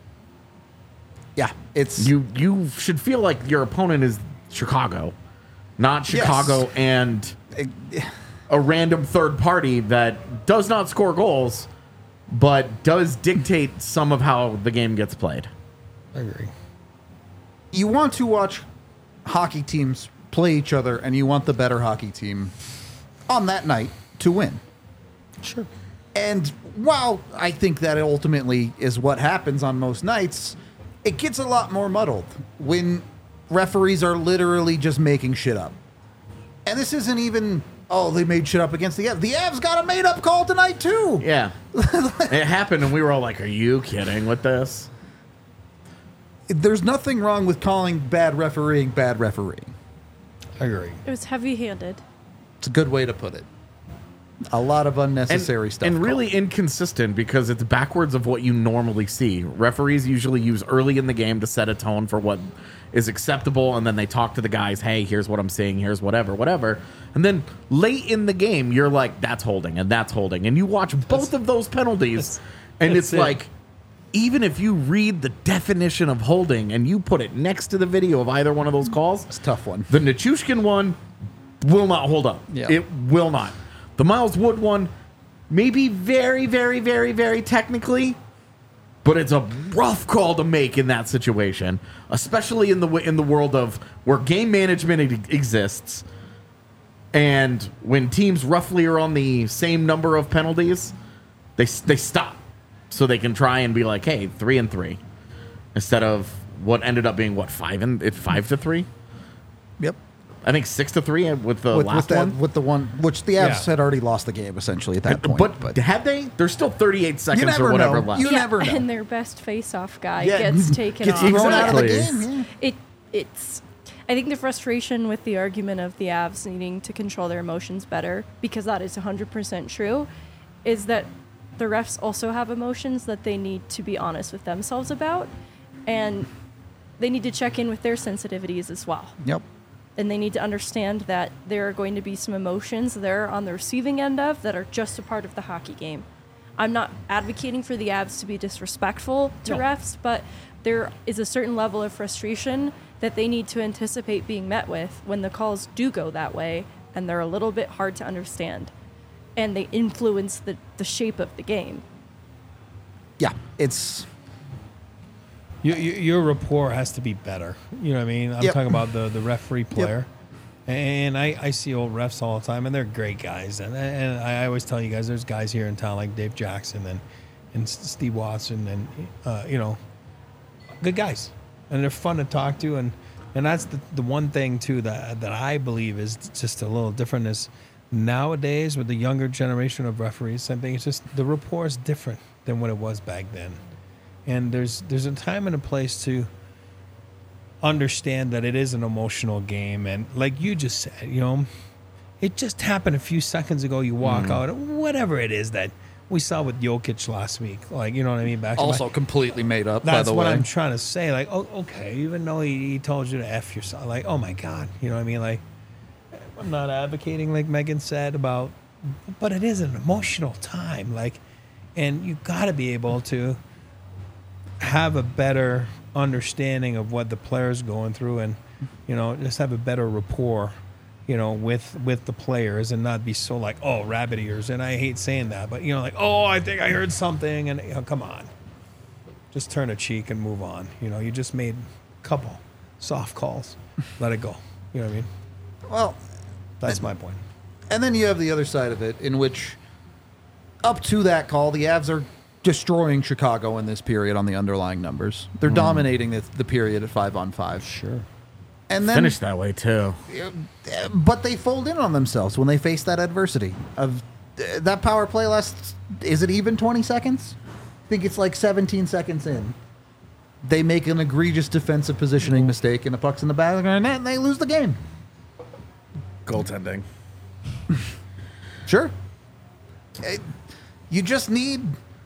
Yeah, it's You should feel like your opponent is Chicago, not Chicago and a random third party that does not score goals, but does dictate some of how the game gets played. I agree. You want to watch hockey teams play each other, and you want the better hockey team on that night to win. Sure. And while I think that ultimately is what happens on most nights, it gets a lot more muddled when referees are literally just making shit up. And this isn't even, they made shit up against the Avs. The Avs got a made-up call tonight, too. Yeah. It happened, and we were all like, are you kidding with this? There's nothing wrong with calling bad refereeing. I agree. It was heavy-handed. It's a good way to put it. A lot of unnecessary stuff. And really inconsistent because it's backwards of what you normally see. Referees usually use early in the game to set a tone for what is acceptable, and then they talk to the guys, hey, here's what I'm seeing, here's whatever. And then late in the game, you're like, that's holding, and that's holding. And you watch both of those penalties, and it's like, even if you read the definition of holding and you put it next to the video of either one of those calls, It's a tough one. the Nichushkin one will not hold up. Yeah. It will not. The Miles Wood one, maybe very, very, very, very technically, but it's a rough call to make in that situation, especially in the world of where game management exists, And when teams roughly are on the same number of penalties, they stop so they can try and be like, hey, 3-3, instead of what ended up being 5-3. Yep. I think 6-3 with the last one. With the one which the Avs Yeah. had already lost the game essentially at that point. But had they? There's still 38 seconds never or whatever know. left. You never know. And their best face-off guy Yeah, gets taken gets off. thrown out of the Exactly. game. Yeah. It's I think the frustration with the argument of the Avs needing to control their emotions better, because that is 100% true, is that the refs also have emotions that they need to be honest with themselves about, and they need to check in with their sensitivities as well. Yep. And they need to understand that there are going to be some emotions they're on the receiving end of that are just a part of the hockey game. I'm not advocating for the Avs to be disrespectful to refs, but there is a certain level of frustration that they need to anticipate being met with when the calls do go that way, and they're a little bit hard to understand. And they influence the shape of the game. Yeah. It's Your rapport has to be better. You know what I mean? I'm Yep. talking about the referee player. And I see old refs all the time, and they're great guys. And I always tell you guys, there's guys here in town like Dave Jackson and Steve Watson and, good guys. And they're fun to talk to. And that's the one thing, too, that I believe is just a little different is nowadays with the younger generation of referees, I think it's just the rapport is different than what it was back then. And there's a time and a place to understand that it is an emotional game. And like you just said, it just happened a few seconds ago. You walk out, whatever it is that we saw with Jokic last week. Like, you know what I mean? Back also completely made up, by that's the what way. I'm trying to say. Like, oh, okay, even though he told you to F yourself. Like, oh my God. You know what I mean? Like, I'm not advocating, like Megan said, about, but it is an emotional time. Like, and you got to be able to have a better understanding of what the player's going through, and just have a better rapport with the players, and not be so like, oh, rabbit ears. And I hate saying that, but like, oh, I think I heard something, and come on, just turn a cheek and move on. You just made a couple soft calls, let it go. You know what I mean? Well, That's my point. and then you have the other side of it, in which up to that call, the Avs are destroying Chicago in this period on the underlying numbers. They're dominating the period at 5-on-5. Sure. And then Finished that way too. but they fold in on themselves when they face that adversity. Of that power play lasts, is it even 20 seconds? I think it's like 17 seconds in. They make an egregious defensive positioning mistake, and the puck's in the back of the net, and they lose the game. Goaltending. Sure. You just need...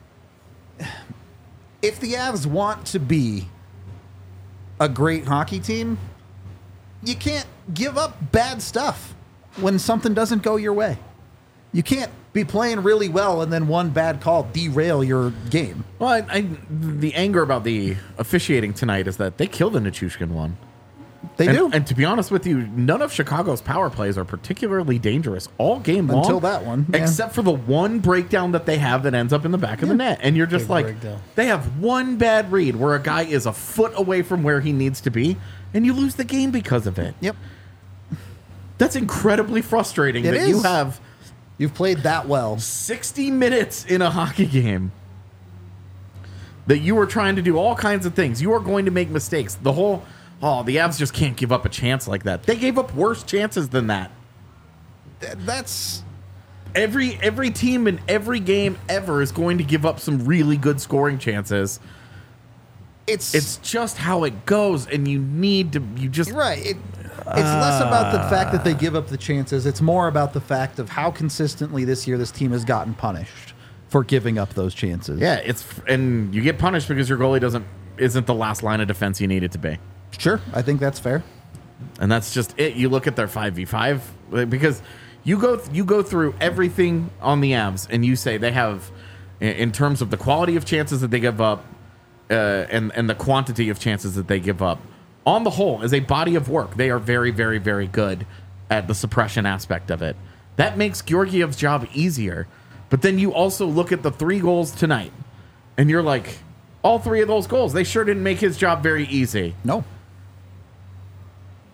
If the Avs want to be a great hockey team, you can't give up bad stuff when something doesn't go your way. You can't be playing really well and then one bad call derail your game. Well, the anger about the officiating tonight is that they killed the Nichushkin one. They do. And to be honest with you, none of Chicago's power plays are particularly dangerous all game long. Until that one, yeah. Except for the one breakdown that they have that ends up in the back of the net. And you're just Big like, breakdown. they have one bad read where a guy is a foot away from where he needs to be, and you lose the game because of it. Yep. That's incredibly frustrating It that you is. have You've played that well. 60 minutes in a hockey game that you are trying to do all kinds of things. You are going to make mistakes. The Avs just can't give up a chance like that. They gave up worse chances than that. That's... Every team in every game ever is going to give up some really good scoring chances. It's just how it goes, and you just Right. It's less about the fact that they give up the chances. It's more about the fact of how consistently this year this team has gotten punished for giving up those chances. yeah. And you get punished because your goalie isn't the last line of defense you need it to be. Sure. I think that's fair. And that's just it. You look at their 5v5 because you go through everything on the Avs and you say they have, in terms of the quality of chances that they give up, and the quantity of chances that they give up, on the whole, as a body of work, they are very, very, very good at the suppression aspect of it. That makes Georgiev's job easier. But then you also look at the 3 goals tonight, and you're like, all 3 of those goals, they sure didn't make his job very easy. No.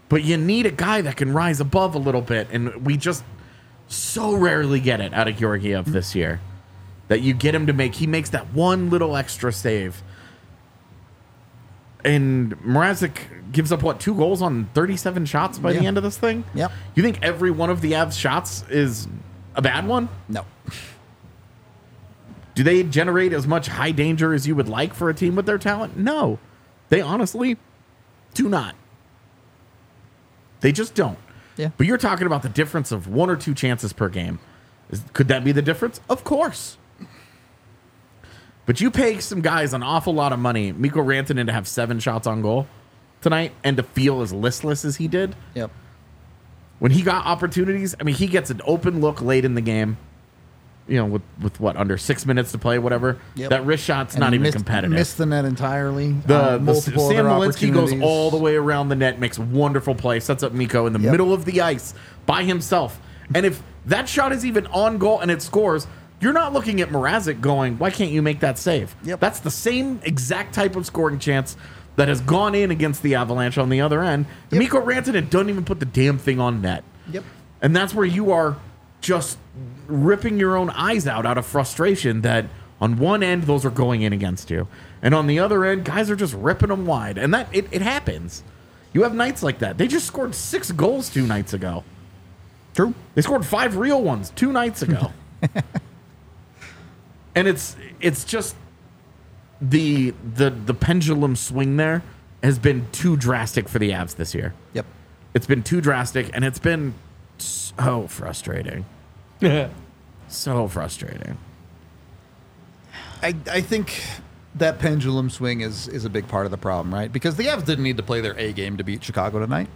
But you need a guy that can rise above a little bit, and we just so rarely get it out of Georgiev this year. That you get him to he makes that one little extra save. And Mrazek gives up, 2 goals on 37 shots by the end of this thing? Yep. You think every one of the Avs shots is a bad one? No. Do they generate as much high danger as you would like for a team with their talent? No. They honestly do not. They just don't. Yeah. But you're talking about the difference of 1 or 2 chances per game. Could that be the difference? Of course. But you pay some guys an awful lot of money, Mikko Rantanen, to have 7 shots on goal tonight and to feel as listless as he did. Yep. When he got opportunities, I mean, he gets an open look late in the game, with what, under 6 minutes to play, whatever. Yep. That wrist shot's And not even missed, competitive. Missed the net entirely. The multiple Sam other Malinsky goes opportunities. all the way around the net, makes a wonderful play, sets up Mikko in the middle of the ice by himself. And if that shot is even on goal and it scores, you're not looking at Mrazek going, why can't you make that save? Yep. That's the same exact type of scoring chance that has gone in against the Avalanche on the other end. Yep. Mikko Rantanen doesn't even put the damn thing on net. Yep. And that's where you are just ripping your own eyes out of frustration that on one end, those are going in against you. And on the other end, guys are just ripping them wide. And that it happens. You have nights like that. They just scored 6 goals 2 nights ago. True. They scored 5 real ones 2 nights ago. And it's just the pendulum swing there has been too drastic for the Avs this year. Yep. It's been too drastic, and it's been so frustrating. So frustrating. I think that pendulum swing is a big part of the problem, right? Because the Avs didn't need to play their A game to beat Chicago tonight.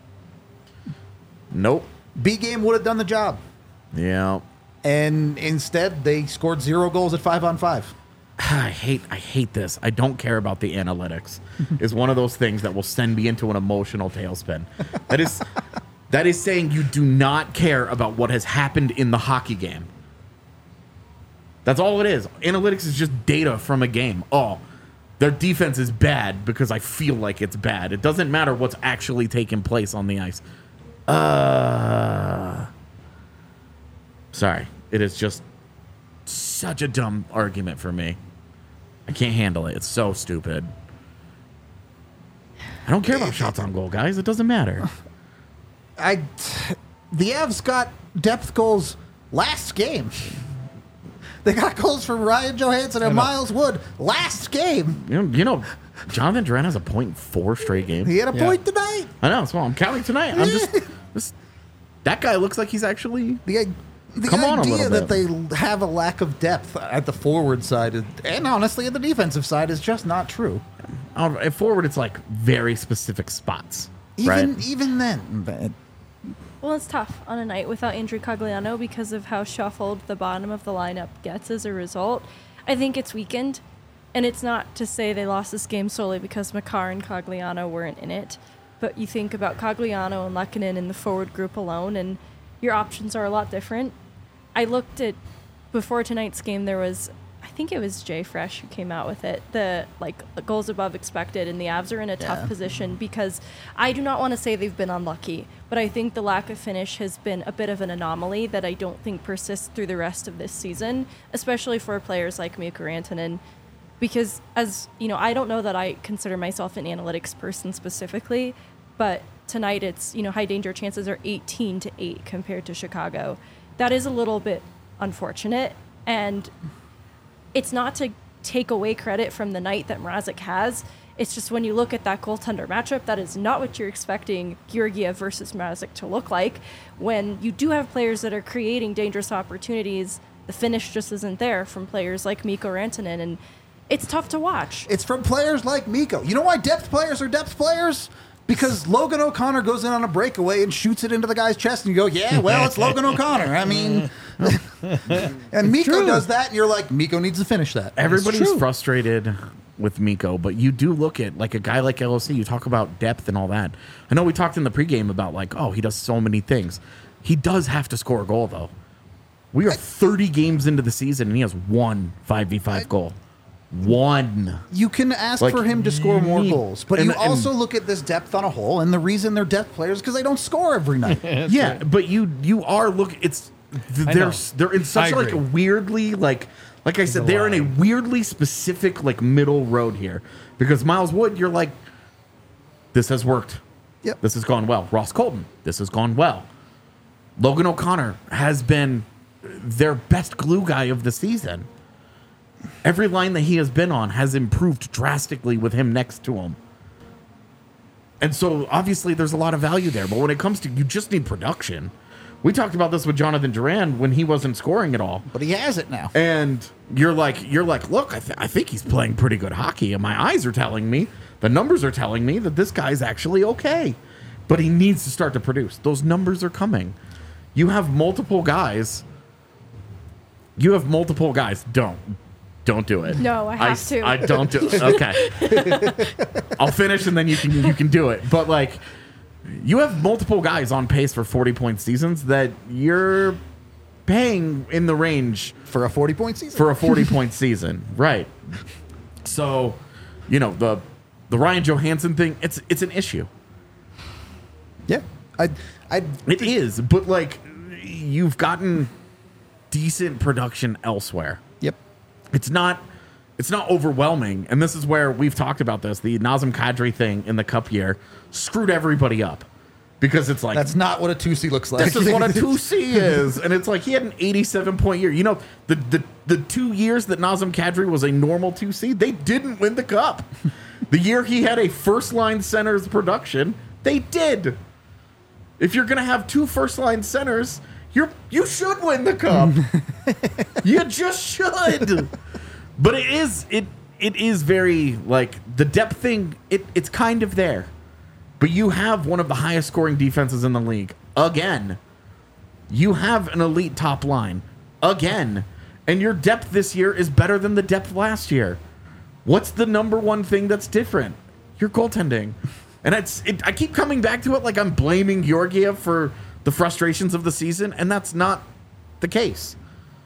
Nope. B game would have done the job. Yeah. And instead, they scored 0 goals at 5-on-5. I hate this. I don't care about the analytics. Is one of those things that will send me into an emotional tailspin. That is saying you do not care about what has happened in the hockey game. That's all it is. Analytics is just data from a game. Oh, their defense is bad because I feel like it's bad. It doesn't matter what's actually taking place on the ice. Sorry. It is just such a dumb argument for me. I can't handle it. It's so stupid. I don't care about shots on goal, guys. It doesn't matter. The Avs got depth goals last game. They got goals from Ryan Johansson and Miles Wood last game. You know, Jonathan Drouin has a point in 4 straight games. He had a point tonight. I know. So I'm counting tonight. I'm just that guy looks like he's actually The Come on a idea little that bit. they have a lack of depth at the forward side and honestly at the defensive side is just not true. at forward. It's like very specific spots, Even right? even then, Well, it's tough on a night without Andrew Cogliano because of how shuffled the bottom of the lineup gets as a result. I think it's weakened, and it's not to say they lost this game solely because Makar and Cogliano weren't in it, but you think about Cogliano and Lehkonen in the forward group alone, and your options are a lot different. I looked at, before tonight's game, there was, I think it was Jay Fresh who came out with it, the goals above expected, and the Avs are in a tough position because I do not want to say they've been unlucky, but I think the lack of finish has been a bit of an anomaly that I don't think persists through the rest of this season, especially for players like Mikko Rantanen, because as you know, I don't know that I consider myself an analytics person specifically, but tonight it's, high danger chances are 18-8 compared to Chicago. That is a little bit unfortunate, and it's not to take away credit from the night that Mrazek has. It's just when you look at that goaltender matchup, that is not what you're expecting Georgiev versus Mrazek to look like. When you do have players that are creating dangerous opportunities, the finish just isn't there from players like Mikko Rantanen, and it's tough to watch. it's from players like Mikko. You know why depth players are depth players? Because Logan O'Connor goes in on a breakaway and shoots it into the guy's chest, and you go, yeah, well, it's Logan O'Connor. I mean, and Mikko does that, and you're like, Mikko needs to finish that. Everybody's frustrated with Mikko, but you do look at like a guy like LOC. You talk about depth and all that. I know we talked in the pregame about like, oh, he does so many things. He does have to score a goal though. We are 30 games into the season, and he has one 5v5 goal. One. You can ask Like, for him to score more you- goals, but and- you also look at this depth on a whole, and the reason they're depth players is because they don't score every night. Yeah, but you are looking. They're in such I like agree. a weirdly like I said, they're in a weirdly specific like middle road here because Miles Wood, you're like, this has worked. Yep. This has gone well. Ross Colton, this has gone well. Logan O'Connor has been their best glue guy of the season. Every line that he has been on has improved drastically with him next to him. And so obviously there's a lot of value there. But when it comes to, you just need production. We talked about this with Jonathan Duran when he wasn't scoring at all. But he has it now. And you're like, look, I think he's playing pretty good hockey. And my eyes are telling me, the numbers are telling me that this guy's actually okay. But he needs to start to produce. Those numbers are coming. You have multiple guys. Don't do it. No, I have to. I don't do it. Okay. I'll finish and then you can do it. But like, you have multiple guys on pace for 40-point seasons that you're paying in the range For a 40-point season. for a 40-point season, right? So, the Ryan Johansson thing, it's an issue. Yeah. It is, but like, you've gotten decent production elsewhere. Yep. It's not overwhelming, and this is where we've talked about this. The Nazem Kadri thing in the Cup year screwed everybody up because it's like That's not what a 2C looks like. this is what a 2C is, and it's like he had an 87-point year. The 2 years that Nazem Kadri was a normal 2C, they didn't win the Cup. The year he had a first-line center's production, they did. If you're gonna have 2 first-line centers, you should win the Cup. You just should. But it is very like the depth thing. It's kind of there, but you have one of the highest scoring defenses in the league again. You have an elite top line again, and your depth this year is better than the depth last year. What's the number one thing that's different? Your goaltending, and I keep coming back to it like I'm blaming Georgiev for the frustrations of the season, and that's not the case.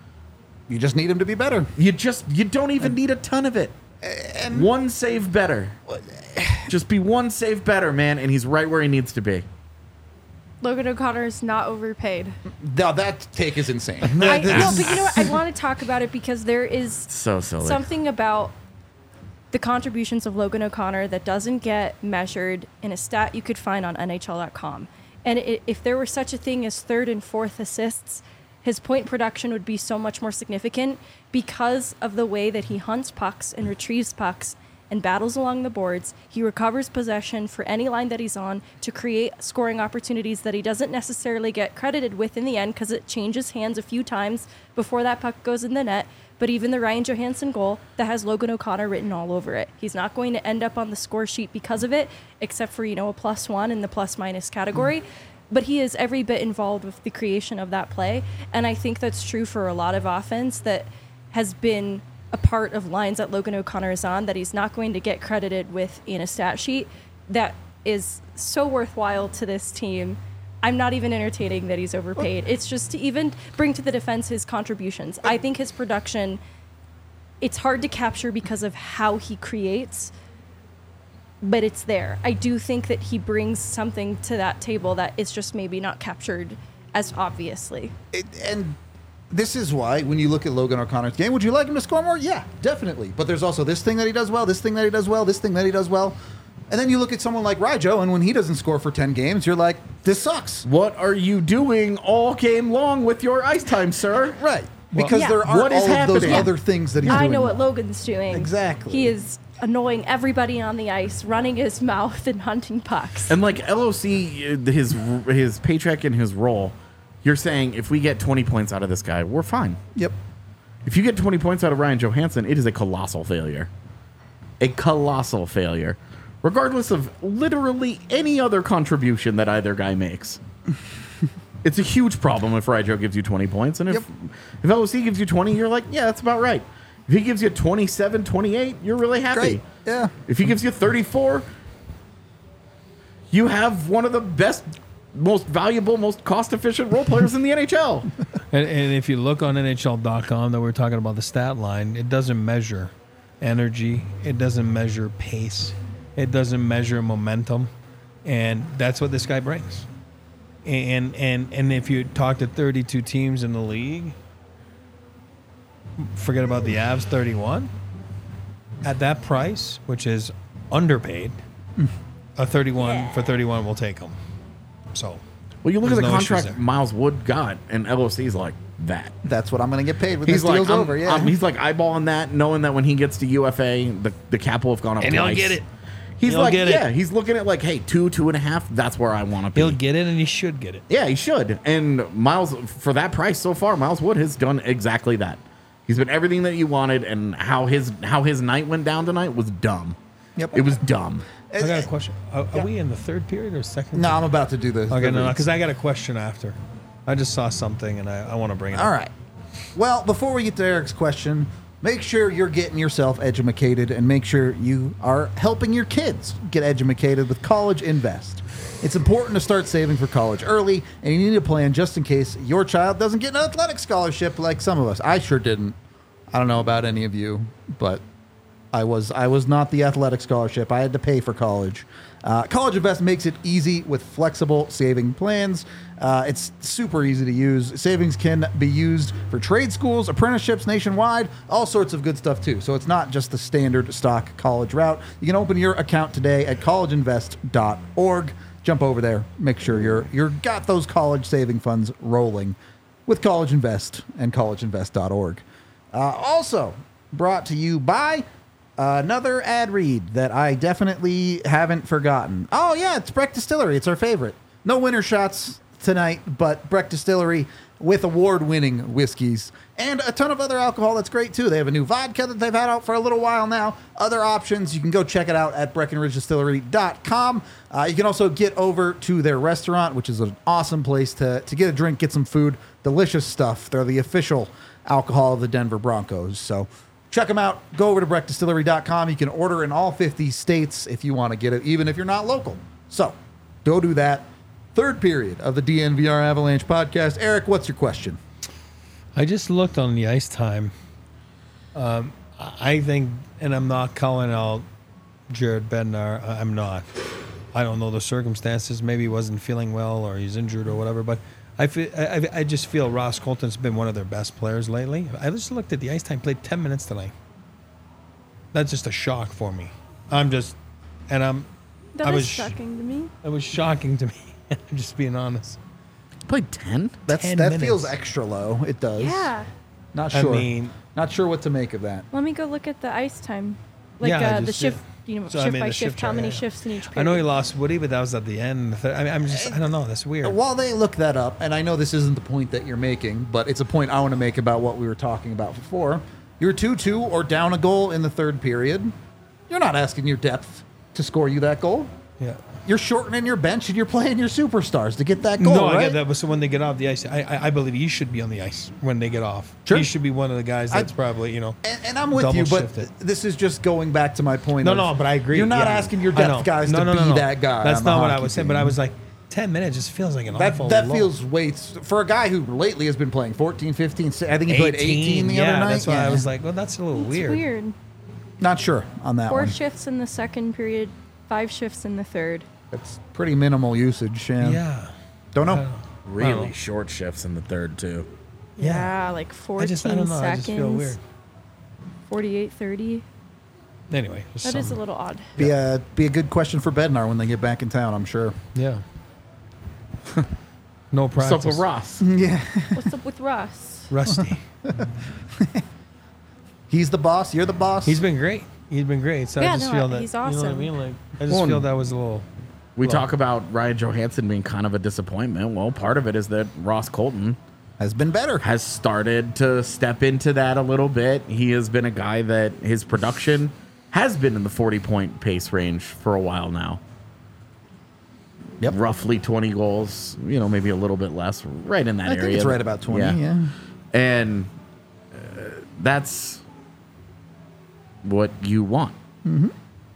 You just need him to be better. You don't even need a ton of it. And One save better. Just be one save better, man, and he's right where he needs to be. Logan O'Connor is not overpaid. now that take is insane. No, but you know what? I want to talk about it because there is So silly. something about the contributions of Logan O'Connor that doesn't get measured in a stat you could find on NHL.com. And if there were such a thing as third and fourth assists, his point production would be so much more significant because of the way that he hunts pucks and retrieves pucks and battles along the boards. He recovers possession for any line that he's on to create scoring opportunities that he doesn't necessarily get credited with in the end because it changes hands a few times before that puck goes in the net. But even the Ryan Johansson goal that has Logan O'Connor written all over it, he's not going to end up on the score sheet because of it, except for, a +1 in the plus-minus category. But he is every bit involved with the creation of that play. And I think that's true for a lot of offense that has been a part of lines that Logan O'Connor is on that he's not going to get credited with in a stat sheet. That is so worthwhile to this team. I'm not even entertaining that he's overpaid. It's just to even bring to the defense his contributions. I think his production, it's hard to capture because of how he creates, but it's there. I do think that he brings something to that table that is just maybe not captured as obviously. And this is why when you look at Logan O'Connor's game, would you like him to score more? Yeah, definitely. But there's also this thing that he does well, this thing that he does well, this thing that he does well. And then you look at someone like Ryjo, and when he doesn't score for 10 games, you're like, this sucks. What are you doing all game long with your ice time, sir? Right. Because Yeah. there aren't What is all of those happening? other things that he's doing. I know well. what Logan's doing. Exactly. He is annoying everybody on the ice, running his mouth and hunting pucks. And like LOC, his paycheck and his role, you're saying if we get 20 points out of this guy, we're fine. Yep. If you get 20 points out of Ryan Johansson, it is a colossal failure. A colossal failure. Regardless of literally any other contribution that either guy makes. It's a huge problem if Ryjo gives you 20 points. And if LOC gives you 20, you're like, yeah, that's about right. If he gives you 27, 28, you're really happy. Great. Yeah. If he gives you 34, you have one of the best, most valuable, most cost-efficient role players in the NHL. And if you look on NHL.com that we're talking about the stat line, it doesn't measure energy. It doesn't measure pace. It doesn't measure momentum. And that's what this guy brings. And if you talk to 32 teams in the league, forget about the Avs 31. At that price, which is underpaid, a 31 for 31 will take him. So, Well, you look at the there's no issues contract there. Miles Wood got, and LOC's like that. That's what I'm going to get paid when He's this deal's like, over. Yeah. he's like eyeballing that, knowing that when he gets to UFA, the cap will have gone up And he'll twice. get it. He's He'll like, get it. yeah, he's looking at like, hey, 2.5. That's where I want to be. He'll get it, and he should get it. Yeah, he should. And Miles, for that price so far, Miles Wood has done exactly that. He's been everything that you wanted, and how his night went down tonight was dumb. Yep. It was dumb. I got a question. Are we in the third period or second? No, I'm about to do this. Okay, no, because I got a question after. I just saw something, and I want to bring it All up. right. Well, before we get to Eric's question, make sure you're getting yourself edumacated and make sure you are helping your kids get edumacated with College Invest. It's important to start saving for college early, and you need a plan just in case your child doesn't get an athletic scholarship like some of us. I sure didn't. I don't know about any of you, but I was not the athletic scholarship. I had to pay for college. College Invest makes it easy with flexible saving plans. It's super easy to use. Savings can be used for trade schools, apprenticeships nationwide, all sorts of good stuff too. So it's not just the standard stock college route. You can open your account today at collegeinvest.org. Jump over there. Make sure you're got those college saving funds rolling with College Invest and collegeinvest.org. Also brought to you by another ad read that I definitely haven't forgotten. Oh, yeah, it's Breck Distillery. It's our favorite. No winter shots tonight, but Breck Distillery with award-winning whiskeys and a ton of other alcohol that's great, too. They have a new vodka that they've had out for a little while now. Other options, you can go check it out at BreckenridgeDistillery.com. You can also get over to their restaurant, which is an awesome place to get a drink, get some food. Delicious stuff. They're the official alcohol of the Denver Broncos. So check them out. Go over to BreckDistillery.com. You can order in all 50 states if you want to get it, even if you're not local. So go do that. Third period of the DNVR Avalanche podcast. Eric, what's your question? I just looked on the ice time. I think, and I'm not calling out Jared Bednar. I'm not. I don't know the circumstances. Maybe he wasn't feeling well or he's injured or whatever. But I just feel Ross Colton's been one of their best players lately. I just looked at the ice time. Played 10 minutes tonight. That's just a shock for me. That I is was shocking to me. It was shocking to me. I'm just being honest. Played 10? 10 that minutes. feels extra low. It does. Yeah. Not I sure. mean- not sure what to make of that. Let me go look at the ice time. Like Yeah, the just- shift, So, I shift mean, by the shift, shift how chart, many yeah. shifts in each period. I know he lost Woody, but that was at the end. I don't know. That's weird. While they look that up, and I know this isn't the point that you're making, but it's a point I want to make about what we were talking about before. You're 2-2 or down a goal in the third period. You're not asking your depth to score you that goal. Yeah. You're shortening your bench and you're playing your superstars to get that goal, No, right? I get that. But so when they get off the ice, I believe he should be on the ice when they get off. Sure. He should be one of the guys that's probably, And I'm with double you, but shifted. this is just going back to my point. No, of no, but I agree. You're not Yeah, asking your I know. depth guys No, to no, be no, no. that guy. That's on the not what I hockey was saying, team. but I was like, 10 minutes just feels like an awful That long. feels way for a guy who lately has been playing 14, 15. I think he played 18 the other night. That's why I was like, well, that's a little It's weird. weird. Not sure on that 4 one. shifts in the second period, 5 shifts in the third. It's pretty minimal usage. Yeah. Don't I know. don't know. Really short shifts in the third, too. Yeah, like 14 I don't know. seconds. I just feel weird. 48, 30. Anyway. That is a little odd. Be a good question for Bednar when they get back in town, I'm sure. Yeah. No What's practice. up with Ross? Yeah. What's up with Russ? Rusty. He's the boss. You're the boss. He's been great. He's been great. So Yeah, I just no, feel that he's You know what I awesome. mean? Like I just Well, feel that was a little. We Well- talk about Ryan Johansson being kind of a disappointment. Well, part of it is that Ross Colton has been better. has started to step into that a little bit. He has been a guy that his production has been in the 40-point pace range for a while now. Yep. Roughly 20 goals, maybe a little bit less, right in that I area. think it's right about 20. Yeah. And that's what you want. Mm-hmm.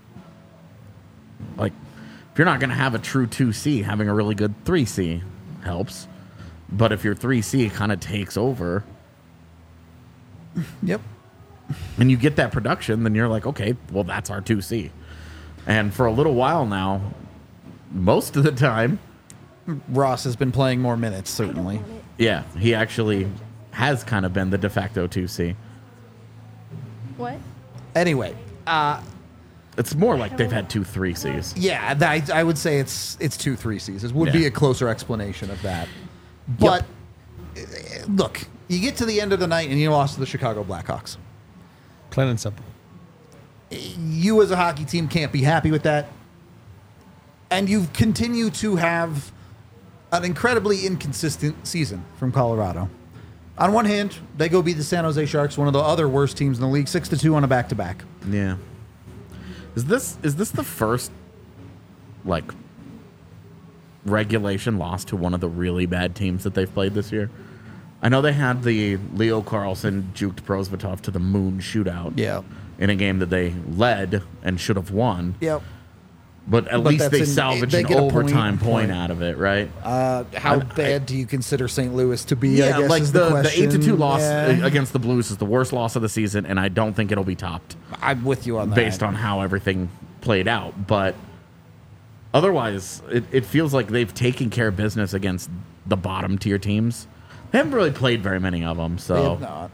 Like, if you're not going to have a true 2C, having a really good 3C helps. But if your 3C kind of takes over, Yep. and you get that production, then you're like, okay, well, that's our 2C. And for a little while now, most of the time, Ross has been playing more minutes, certainly. yeah, he actually has kind of been the de facto 2C. What? Anyway, It's more like they've had 2 3Cs. yeah, I would say it's 2 3Cs. It would be Yeah. a closer explanation of that. But look, you get to the end of the night and you lost to the Chicago Blackhawks. Plain and simple. You as a hockey team can't be happy with that. And you continue to have an incredibly inconsistent season from Colorado. On one hand, they go beat the San Jose Sharks, one of the other worst teams in the league, 6-2 on a back-to-back. Yeah. Is this the first like regulation loss to one of the really bad teams that they've played this year? I know they had the Leo Carlson juked Prosvetov to the moon shootout. Yeah. In a game that they led and should have won. Yep. But at But least that's they an- salvaged they an get a overtime point. point out of it, right? How bad do you consider St. Louis to be? Yeah, I guess like is the the question. 8-2 loss Yeah. against the Blues is the worst loss of the season, and I don't think it'll be topped I'm with you on that. based on how everything played out. But otherwise, it feels like they've taken care of business against the bottom tier teams. They haven't really played very many of them, They so have not.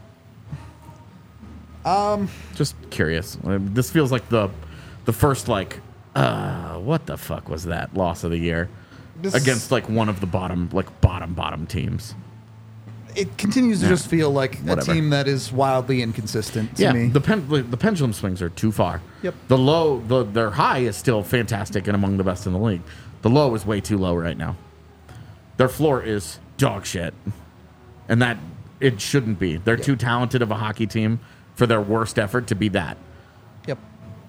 just curious. This feels like the first like what the fuck was that loss of the year This- against like one of the bottom teams. It continues to just feel like Whatever. a team that is wildly inconsistent to Yeah, me. the pendulum swings are too far. Yep. Their high is still fantastic and among the best in the league. The low is way too low right now. Their floor is dog shit, and that it shouldn't be. They're too talented of a hockey team for their worst effort to be that. Yep.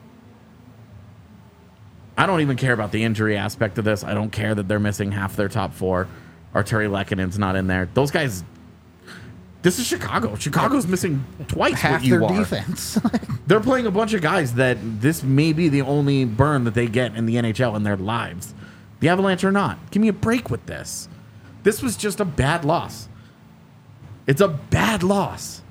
I don't even care about the injury aspect of this. I don't care that they're missing half their top 4. Arturi Lekkonen's not in there. Those guys. This is Chicago. Chicago's missing twice Half what you their are. defense. They're playing a bunch of guys that this may be the only burn that they get in the NHL in their lives. The Avalanche are not. Give me a break with this. This was just a bad loss. It's a bad loss.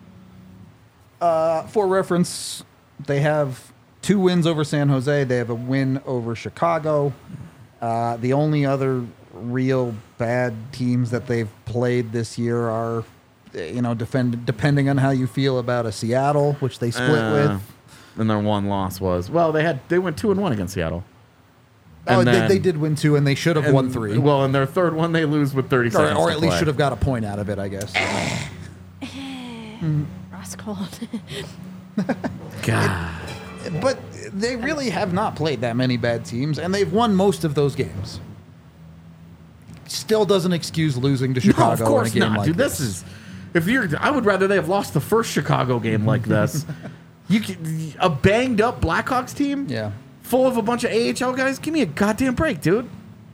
For reference, they have 2 wins over San Jose. They have a win over Chicago. The only other real bad teams that they've played this year are, depending on how you feel about a Seattle, which they split with. And their one loss was they went 2-1 against Seattle. Oh, And then- they did win 2, and they should have won 3. Well, in their third one, they lose with 30 seconds. or to at least play. should have got a point out of it, I guess. Ross called. God. But they really have not played that many bad teams, and they've won most of those games. Still doesn't excuse losing to Chicago No, of course in a game not, like dude. this. I would rather they have lost the first Chicago game like this. A banged up Blackhawks team, Yeah. full of a bunch of AHL guys. Give me a goddamn break, dude.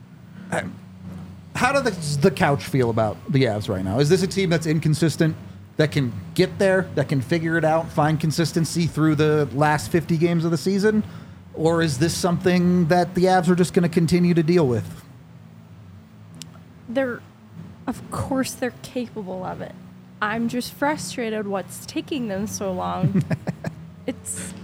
How does the couch feel about the Avs right now? Is this a team that's inconsistent, that can get there, that can figure it out, find consistency through the last 50 games of the season? Or is this something that the Avs are just going to continue to deal with? Of course they're capable of it. I'm just frustrated what's taking them so long. It's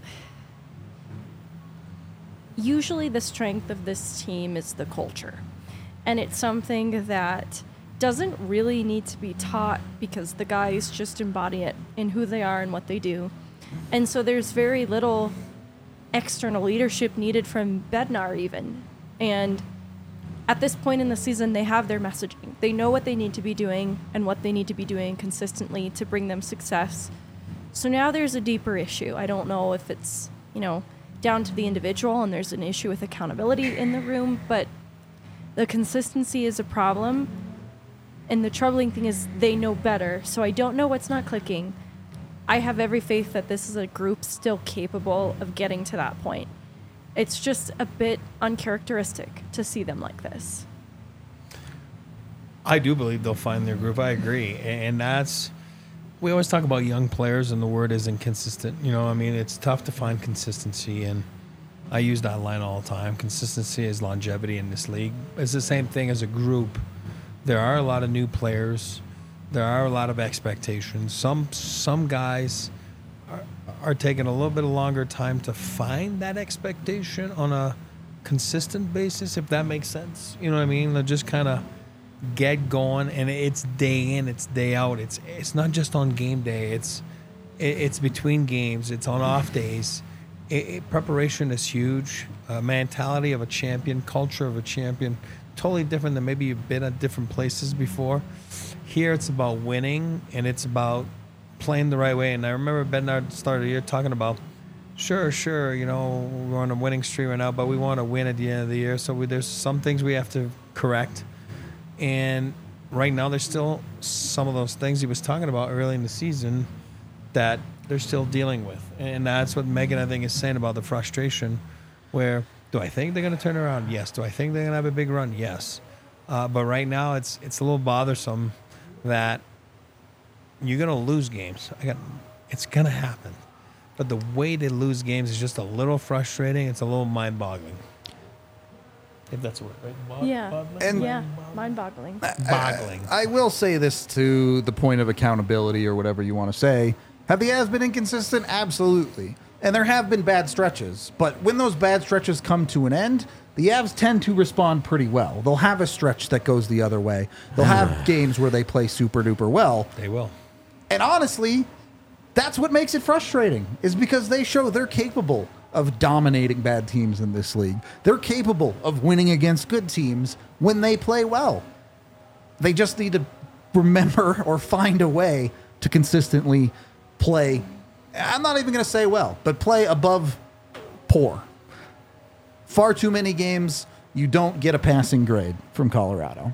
usually the strength of this team is the culture. And it's something that doesn't really need to be taught because the guys just embody it in who they are and what they do. And so there's very little external leadership needed from Bednar even. And at this point in the season, they have their messaging. They know what they need to be doing and what they need to be doing consistently to bring them success. So now there's a deeper issue. I don't know if it's, down to the individual and there's an issue with accountability in the room, but the consistency is a problem. And the troubling thing is they know better. So I don't know what's not clicking. I have every faith that this is a group still capable of getting to that point. It's just a bit uncharacteristic to see them like this. I do believe they'll find their groove. I agree. And that's, we always talk about young players and the word is inconsistent. It's tough to find consistency. And I use that line all the time. Consistency is longevity in this league. It's the same thing as a group. There are a lot of new players. There are a lot of expectations. Some guys are taking a little bit longer time to find that expectation on a consistent basis, if that makes sense. You know what I mean? They'll just kind of get going, and it's day in, it's day out. It's not just on game day. It's between games. It's on off days. Preparation is huge. Mentality of a champion, culture of a champion, totally different than maybe you've been at different places before. Here, it's about winning, and it's about playing the right way. And I remember Bednar started the year talking about, sure, we're on a winning streak right now, but we want to win at the end of the year. So there's some things we have to correct. And right now, there's still some of those things he was talking about early in the season that they're still dealing with. And that's what Megan, I think, is saying about the frustration, where do I think they're going to turn around? Yes. Do I think they're going to have a big run? Yes. But right now, it's a little bothersome that you're going to lose games. It's going to happen. But the way they lose games is just a little frustrating. It's a little mind-boggling. If that's a word, right? Yeah. And- Yeah. Mind-boggling. Boggling. I will say this to the point of accountability or whatever you want to say. Have the Avs been inconsistent? Absolutely. And there have been bad stretches. But when those bad stretches come to an end, the Avs tend to respond pretty well. They'll have a stretch that goes the other way. They'll have games where they play super duper well. They will. And honestly, that's what makes it frustrating, is because they show they're capable of dominating bad teams in this league. They're capable of winning against good teams when they play well. They just need to remember or find a way to consistently play. I'm not even going to say well, but play above poor. Far too many games, you don't get a passing grade from Colorado.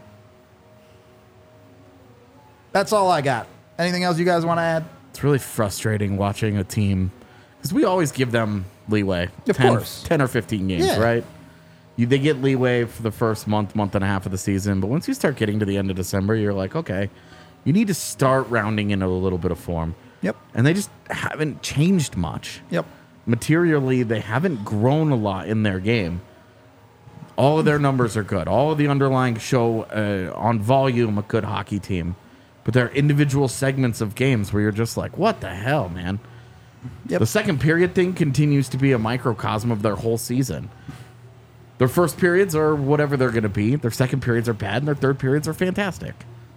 That's all I got. Anything else you guys want to add? It's really frustrating watching a team, because we always give them leeway. Of course. 10 or 15 games, Yeah. right? They get leeway for the first month and a half of the season, but once you start getting to the end of December, you're like, okay, you need to start rounding into a little bit of form. Yep. And they just haven't changed much. Yep. Materially, they haven't grown a lot in their game. All of their numbers are good. All of the underlying show on volume a good hockey team. But there are individual segments of games where you're just like, what the hell, man? Yep. The second period thing continues to be a microcosm of their whole season. Their first periods are whatever they're going to be. Their second periods are bad, and their third periods are fantastic.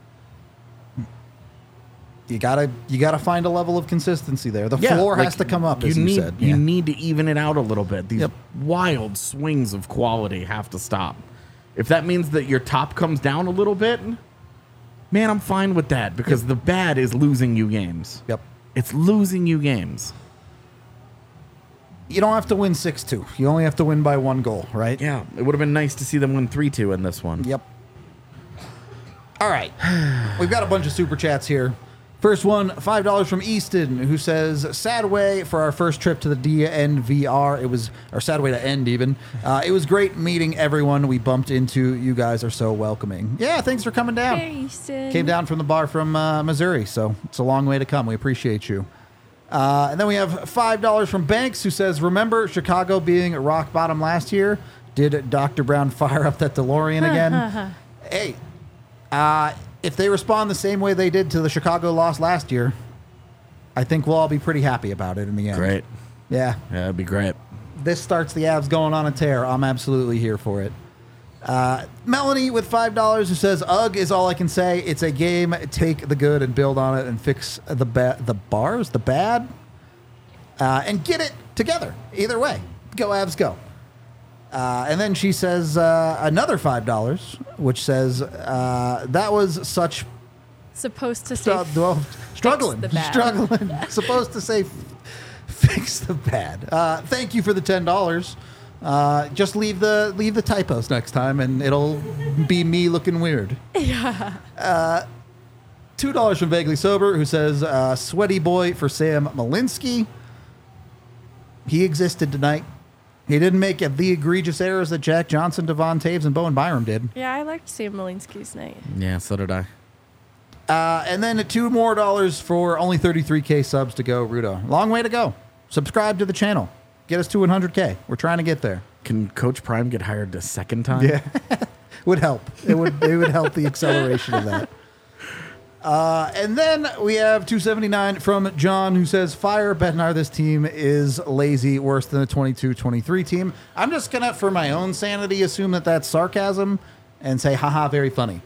You gotta find a level of consistency there. The floor has to come up, as you said. You need to even it out a little bit. These Yep. wild swings of quality have to stop. If that means that your top comes down a little bit, man, I'm fine with that, because the bad is losing you games. Yep. It's losing you games. You don't have to win 6-2. You only have to win by 1 goal, right? Yeah, it would have been nice to see them win 3-2 in this one. Yep. All right. We've got a bunch of super chats here. First one, $5 from Easton, who says, sad way for our first trip to the DNVR. It was our sad way to end, even. It was great meeting everyone we bumped into. You guys are so welcoming. Yeah, thanks for coming down. Hey, Easton. Came down from the bar from Missouri, so it's a long way to come. We appreciate you. And then we have $5 from Banks, who says, remember Chicago being rock bottom last year? Did Dr. Brown fire up that DeLorean again? Hey, if they respond the same way they did to the Chicago loss last year, I think we'll all be pretty happy about it in the end. Great. Yeah. Yeah, that'd be great. This starts the Avs going on a tear. I'm absolutely here for it. Melanie with $5 who says, ugh is all I can say. It's a game. Take the good and build on it and fix the bad, and get it together. Either way. Go Avs, go. And then she says another $5, which says that was such Supposed to say struggling. the bad. Struggling. Supposed to say fix the bad. Thank you for the $10. Just leave the typos next time, and it'll be me looking weird. Yeah. $2 from Vaguely Sober, who says sweaty boy for Sam Malinsky. He existed tonight. He didn't make the egregious errors that Jack Johnson, Devon Taves, and Bowen Byram did. Yeah, I liked Sam Malinsky's night. Yeah, so did I. And then $2 more for only 33K subs to go, Rudo. Long way to go. Subscribe to the channel. Get us to 100K. We're trying to get there. Can Coach Prime get hired a second time? Yeah. Would help. It would help the acceleration of that. And then we have 279 from John, who says, fire Bednar, this team is lazy, worse than the 22-23 team. I'm just going to, for my own sanity, assume that that's sarcasm and say, haha, very funny.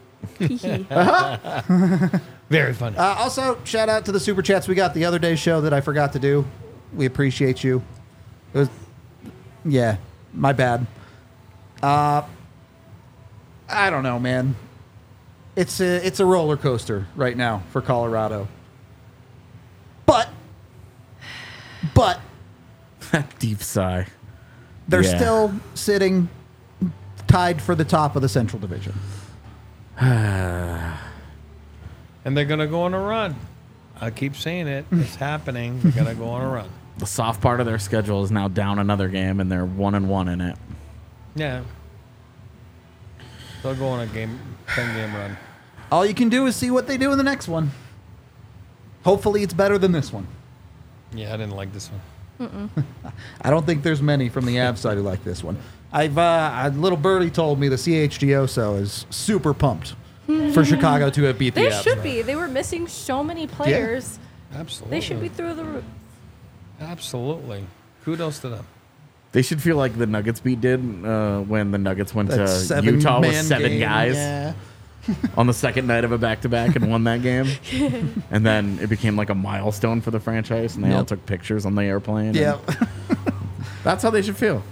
Very funny. Also, shout out to the Super Chats we got the other day's show that I forgot to do. We appreciate you. It was, yeah, my bad. I don't know, man. It's a roller coaster right now for Colorado. But Deep sigh. they're Yeah. still sitting tied for the top of the Central Division. And they're going to go on a run. I keep saying it. It's happening. They're going to go on a run. The soft part of their schedule is now down another game, and they're 1-1 in it. Yeah. They'll go on a 10-game run. All you can do is see what they do in the next one. Hopefully it's better than this one. Yeah, I didn't like this one. I don't think there's many from the Avs side who like this one. A little birdie told me the CHGO is super pumped for Chicago to have beat the They Avs. should be. They were missing so many players. Absolutely. They should be through the roof. Absolutely. Kudos to them. They should feel like the Nuggets beat did when the Nuggets went That to Utah with 7-man 7 game, guys yeah. on the second night of a back-to-back and won that game. And then it became like a milestone for the franchise, and they all Yep. took pictures on the airplane. Yeah. That's how they should feel.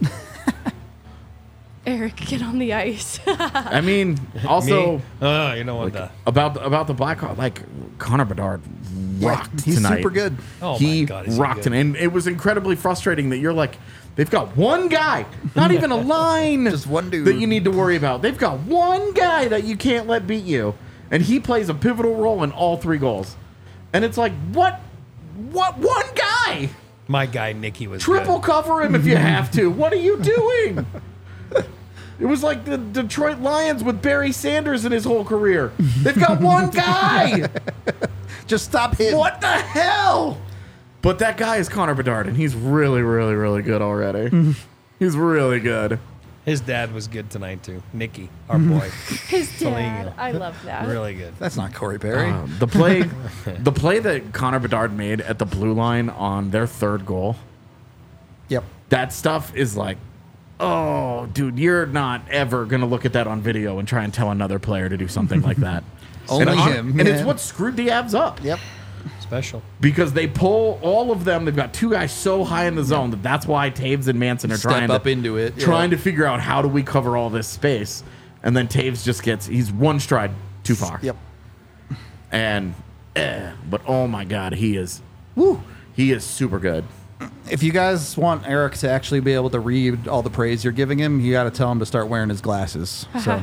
Eric, get on the ice. I mean, also... Me? You know what? About the Blackhawks, like Connor Bedard rocked He's tonight. super good. Oh my He God, is he rocked good. it, and it was incredibly frustrating that you're like, they've got one guy, not even a line, Just one dude. that you need to worry about. They've got one guy that you can't let beat you, and he plays a pivotal role in all 3 goals. And it's like, what one guy? My guy, Nicky, was Triple good. cover him if you have to. What are you doing? It was like the Detroit Lions with Barry Sanders in his whole career. They've got one guy. Just stop hitting. What the hell? But that guy is Connor Bedard, and he's really, really, really good already. He's really good. His dad was good tonight, too. Nicky, our boy. His Something, dad. I love that. Really good. That's not Corey Perry. The play that Connor Bedard made at the blue line on their 3rd goal, Yep. that stuff is like, oh, dude, you're not ever going to look at that on video and try and tell another player to do something like that. Only and him, And yeah. it's what screwed the Avs up. Yep. Special. Because they pull all of them. They've got 2 guys so high in the zone that's why Taves and Manson are Step up into it. Yeah. trying to figure out how do we cover all this space. And then Taves just he's one stride too far. Yep. And but oh my God, he is super good. If you guys want Eric to actually be able to read all the praise you're giving him, you got to tell him to start wearing his glasses. So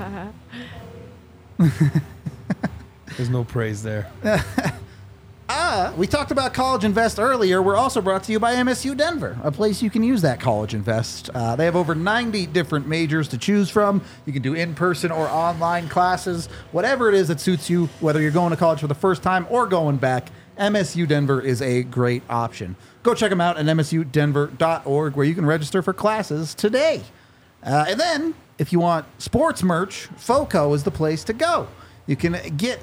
There's no praise there. we talked about College Invest earlier. We're also brought to you by MSU Denver, a place you can use that College Invest. They have over 90 different majors to choose from. You can do in-person or online classes, whatever it is that suits you, whether you're going to college for the first time or going back. MSU Denver is a great option. Go check them out at msudenver.org, where you can register for classes today. And then, if you want sports merch, FOCO is the place to go. You can get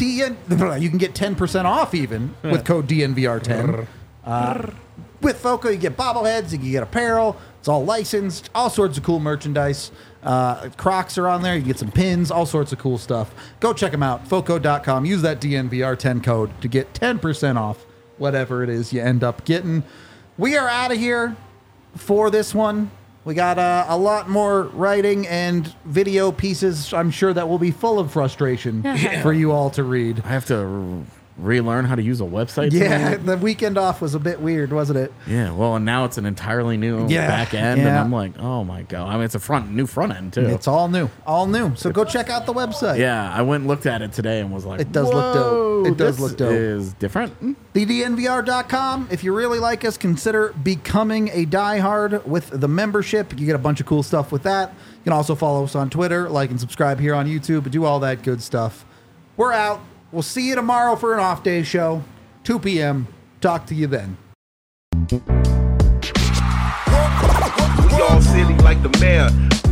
10% off even with code DNVR10. With FOCO, you get bobbleheads, you can get apparel. It's all licensed, all sorts of cool merchandise. Crocs are on there. You can get some pins, all sorts of cool stuff. Go check them out, FOCO.com. Use that DNVR10 code to get 10% off whatever it is you end up getting. We are out of here for this one. We got a lot more writing and video pieces, I'm sure, that will be full of frustration for you all to read. I have to relearn how to use a website. Yeah, tonight. the weekend off was a bit weird, wasn't it? Yeah. Well, and now it's an entirely new back end, and I'm like, oh my God. I mean, it's a new front end too. It's all new. So go check out the website. Yeah, I went and looked at it today and was like, It does look dope. "Whoa, It does this look dope." Is different. TheDNVR.com. If you really like us, consider becoming a diehard with the membership. You get a bunch of cool stuff with that. You can also follow us on Twitter, like and subscribe here on YouTube, do all that good stuff. We're out. We'll see you tomorrow for an off day show, 2 p.m. Talk to you then. We all silly like the mayor.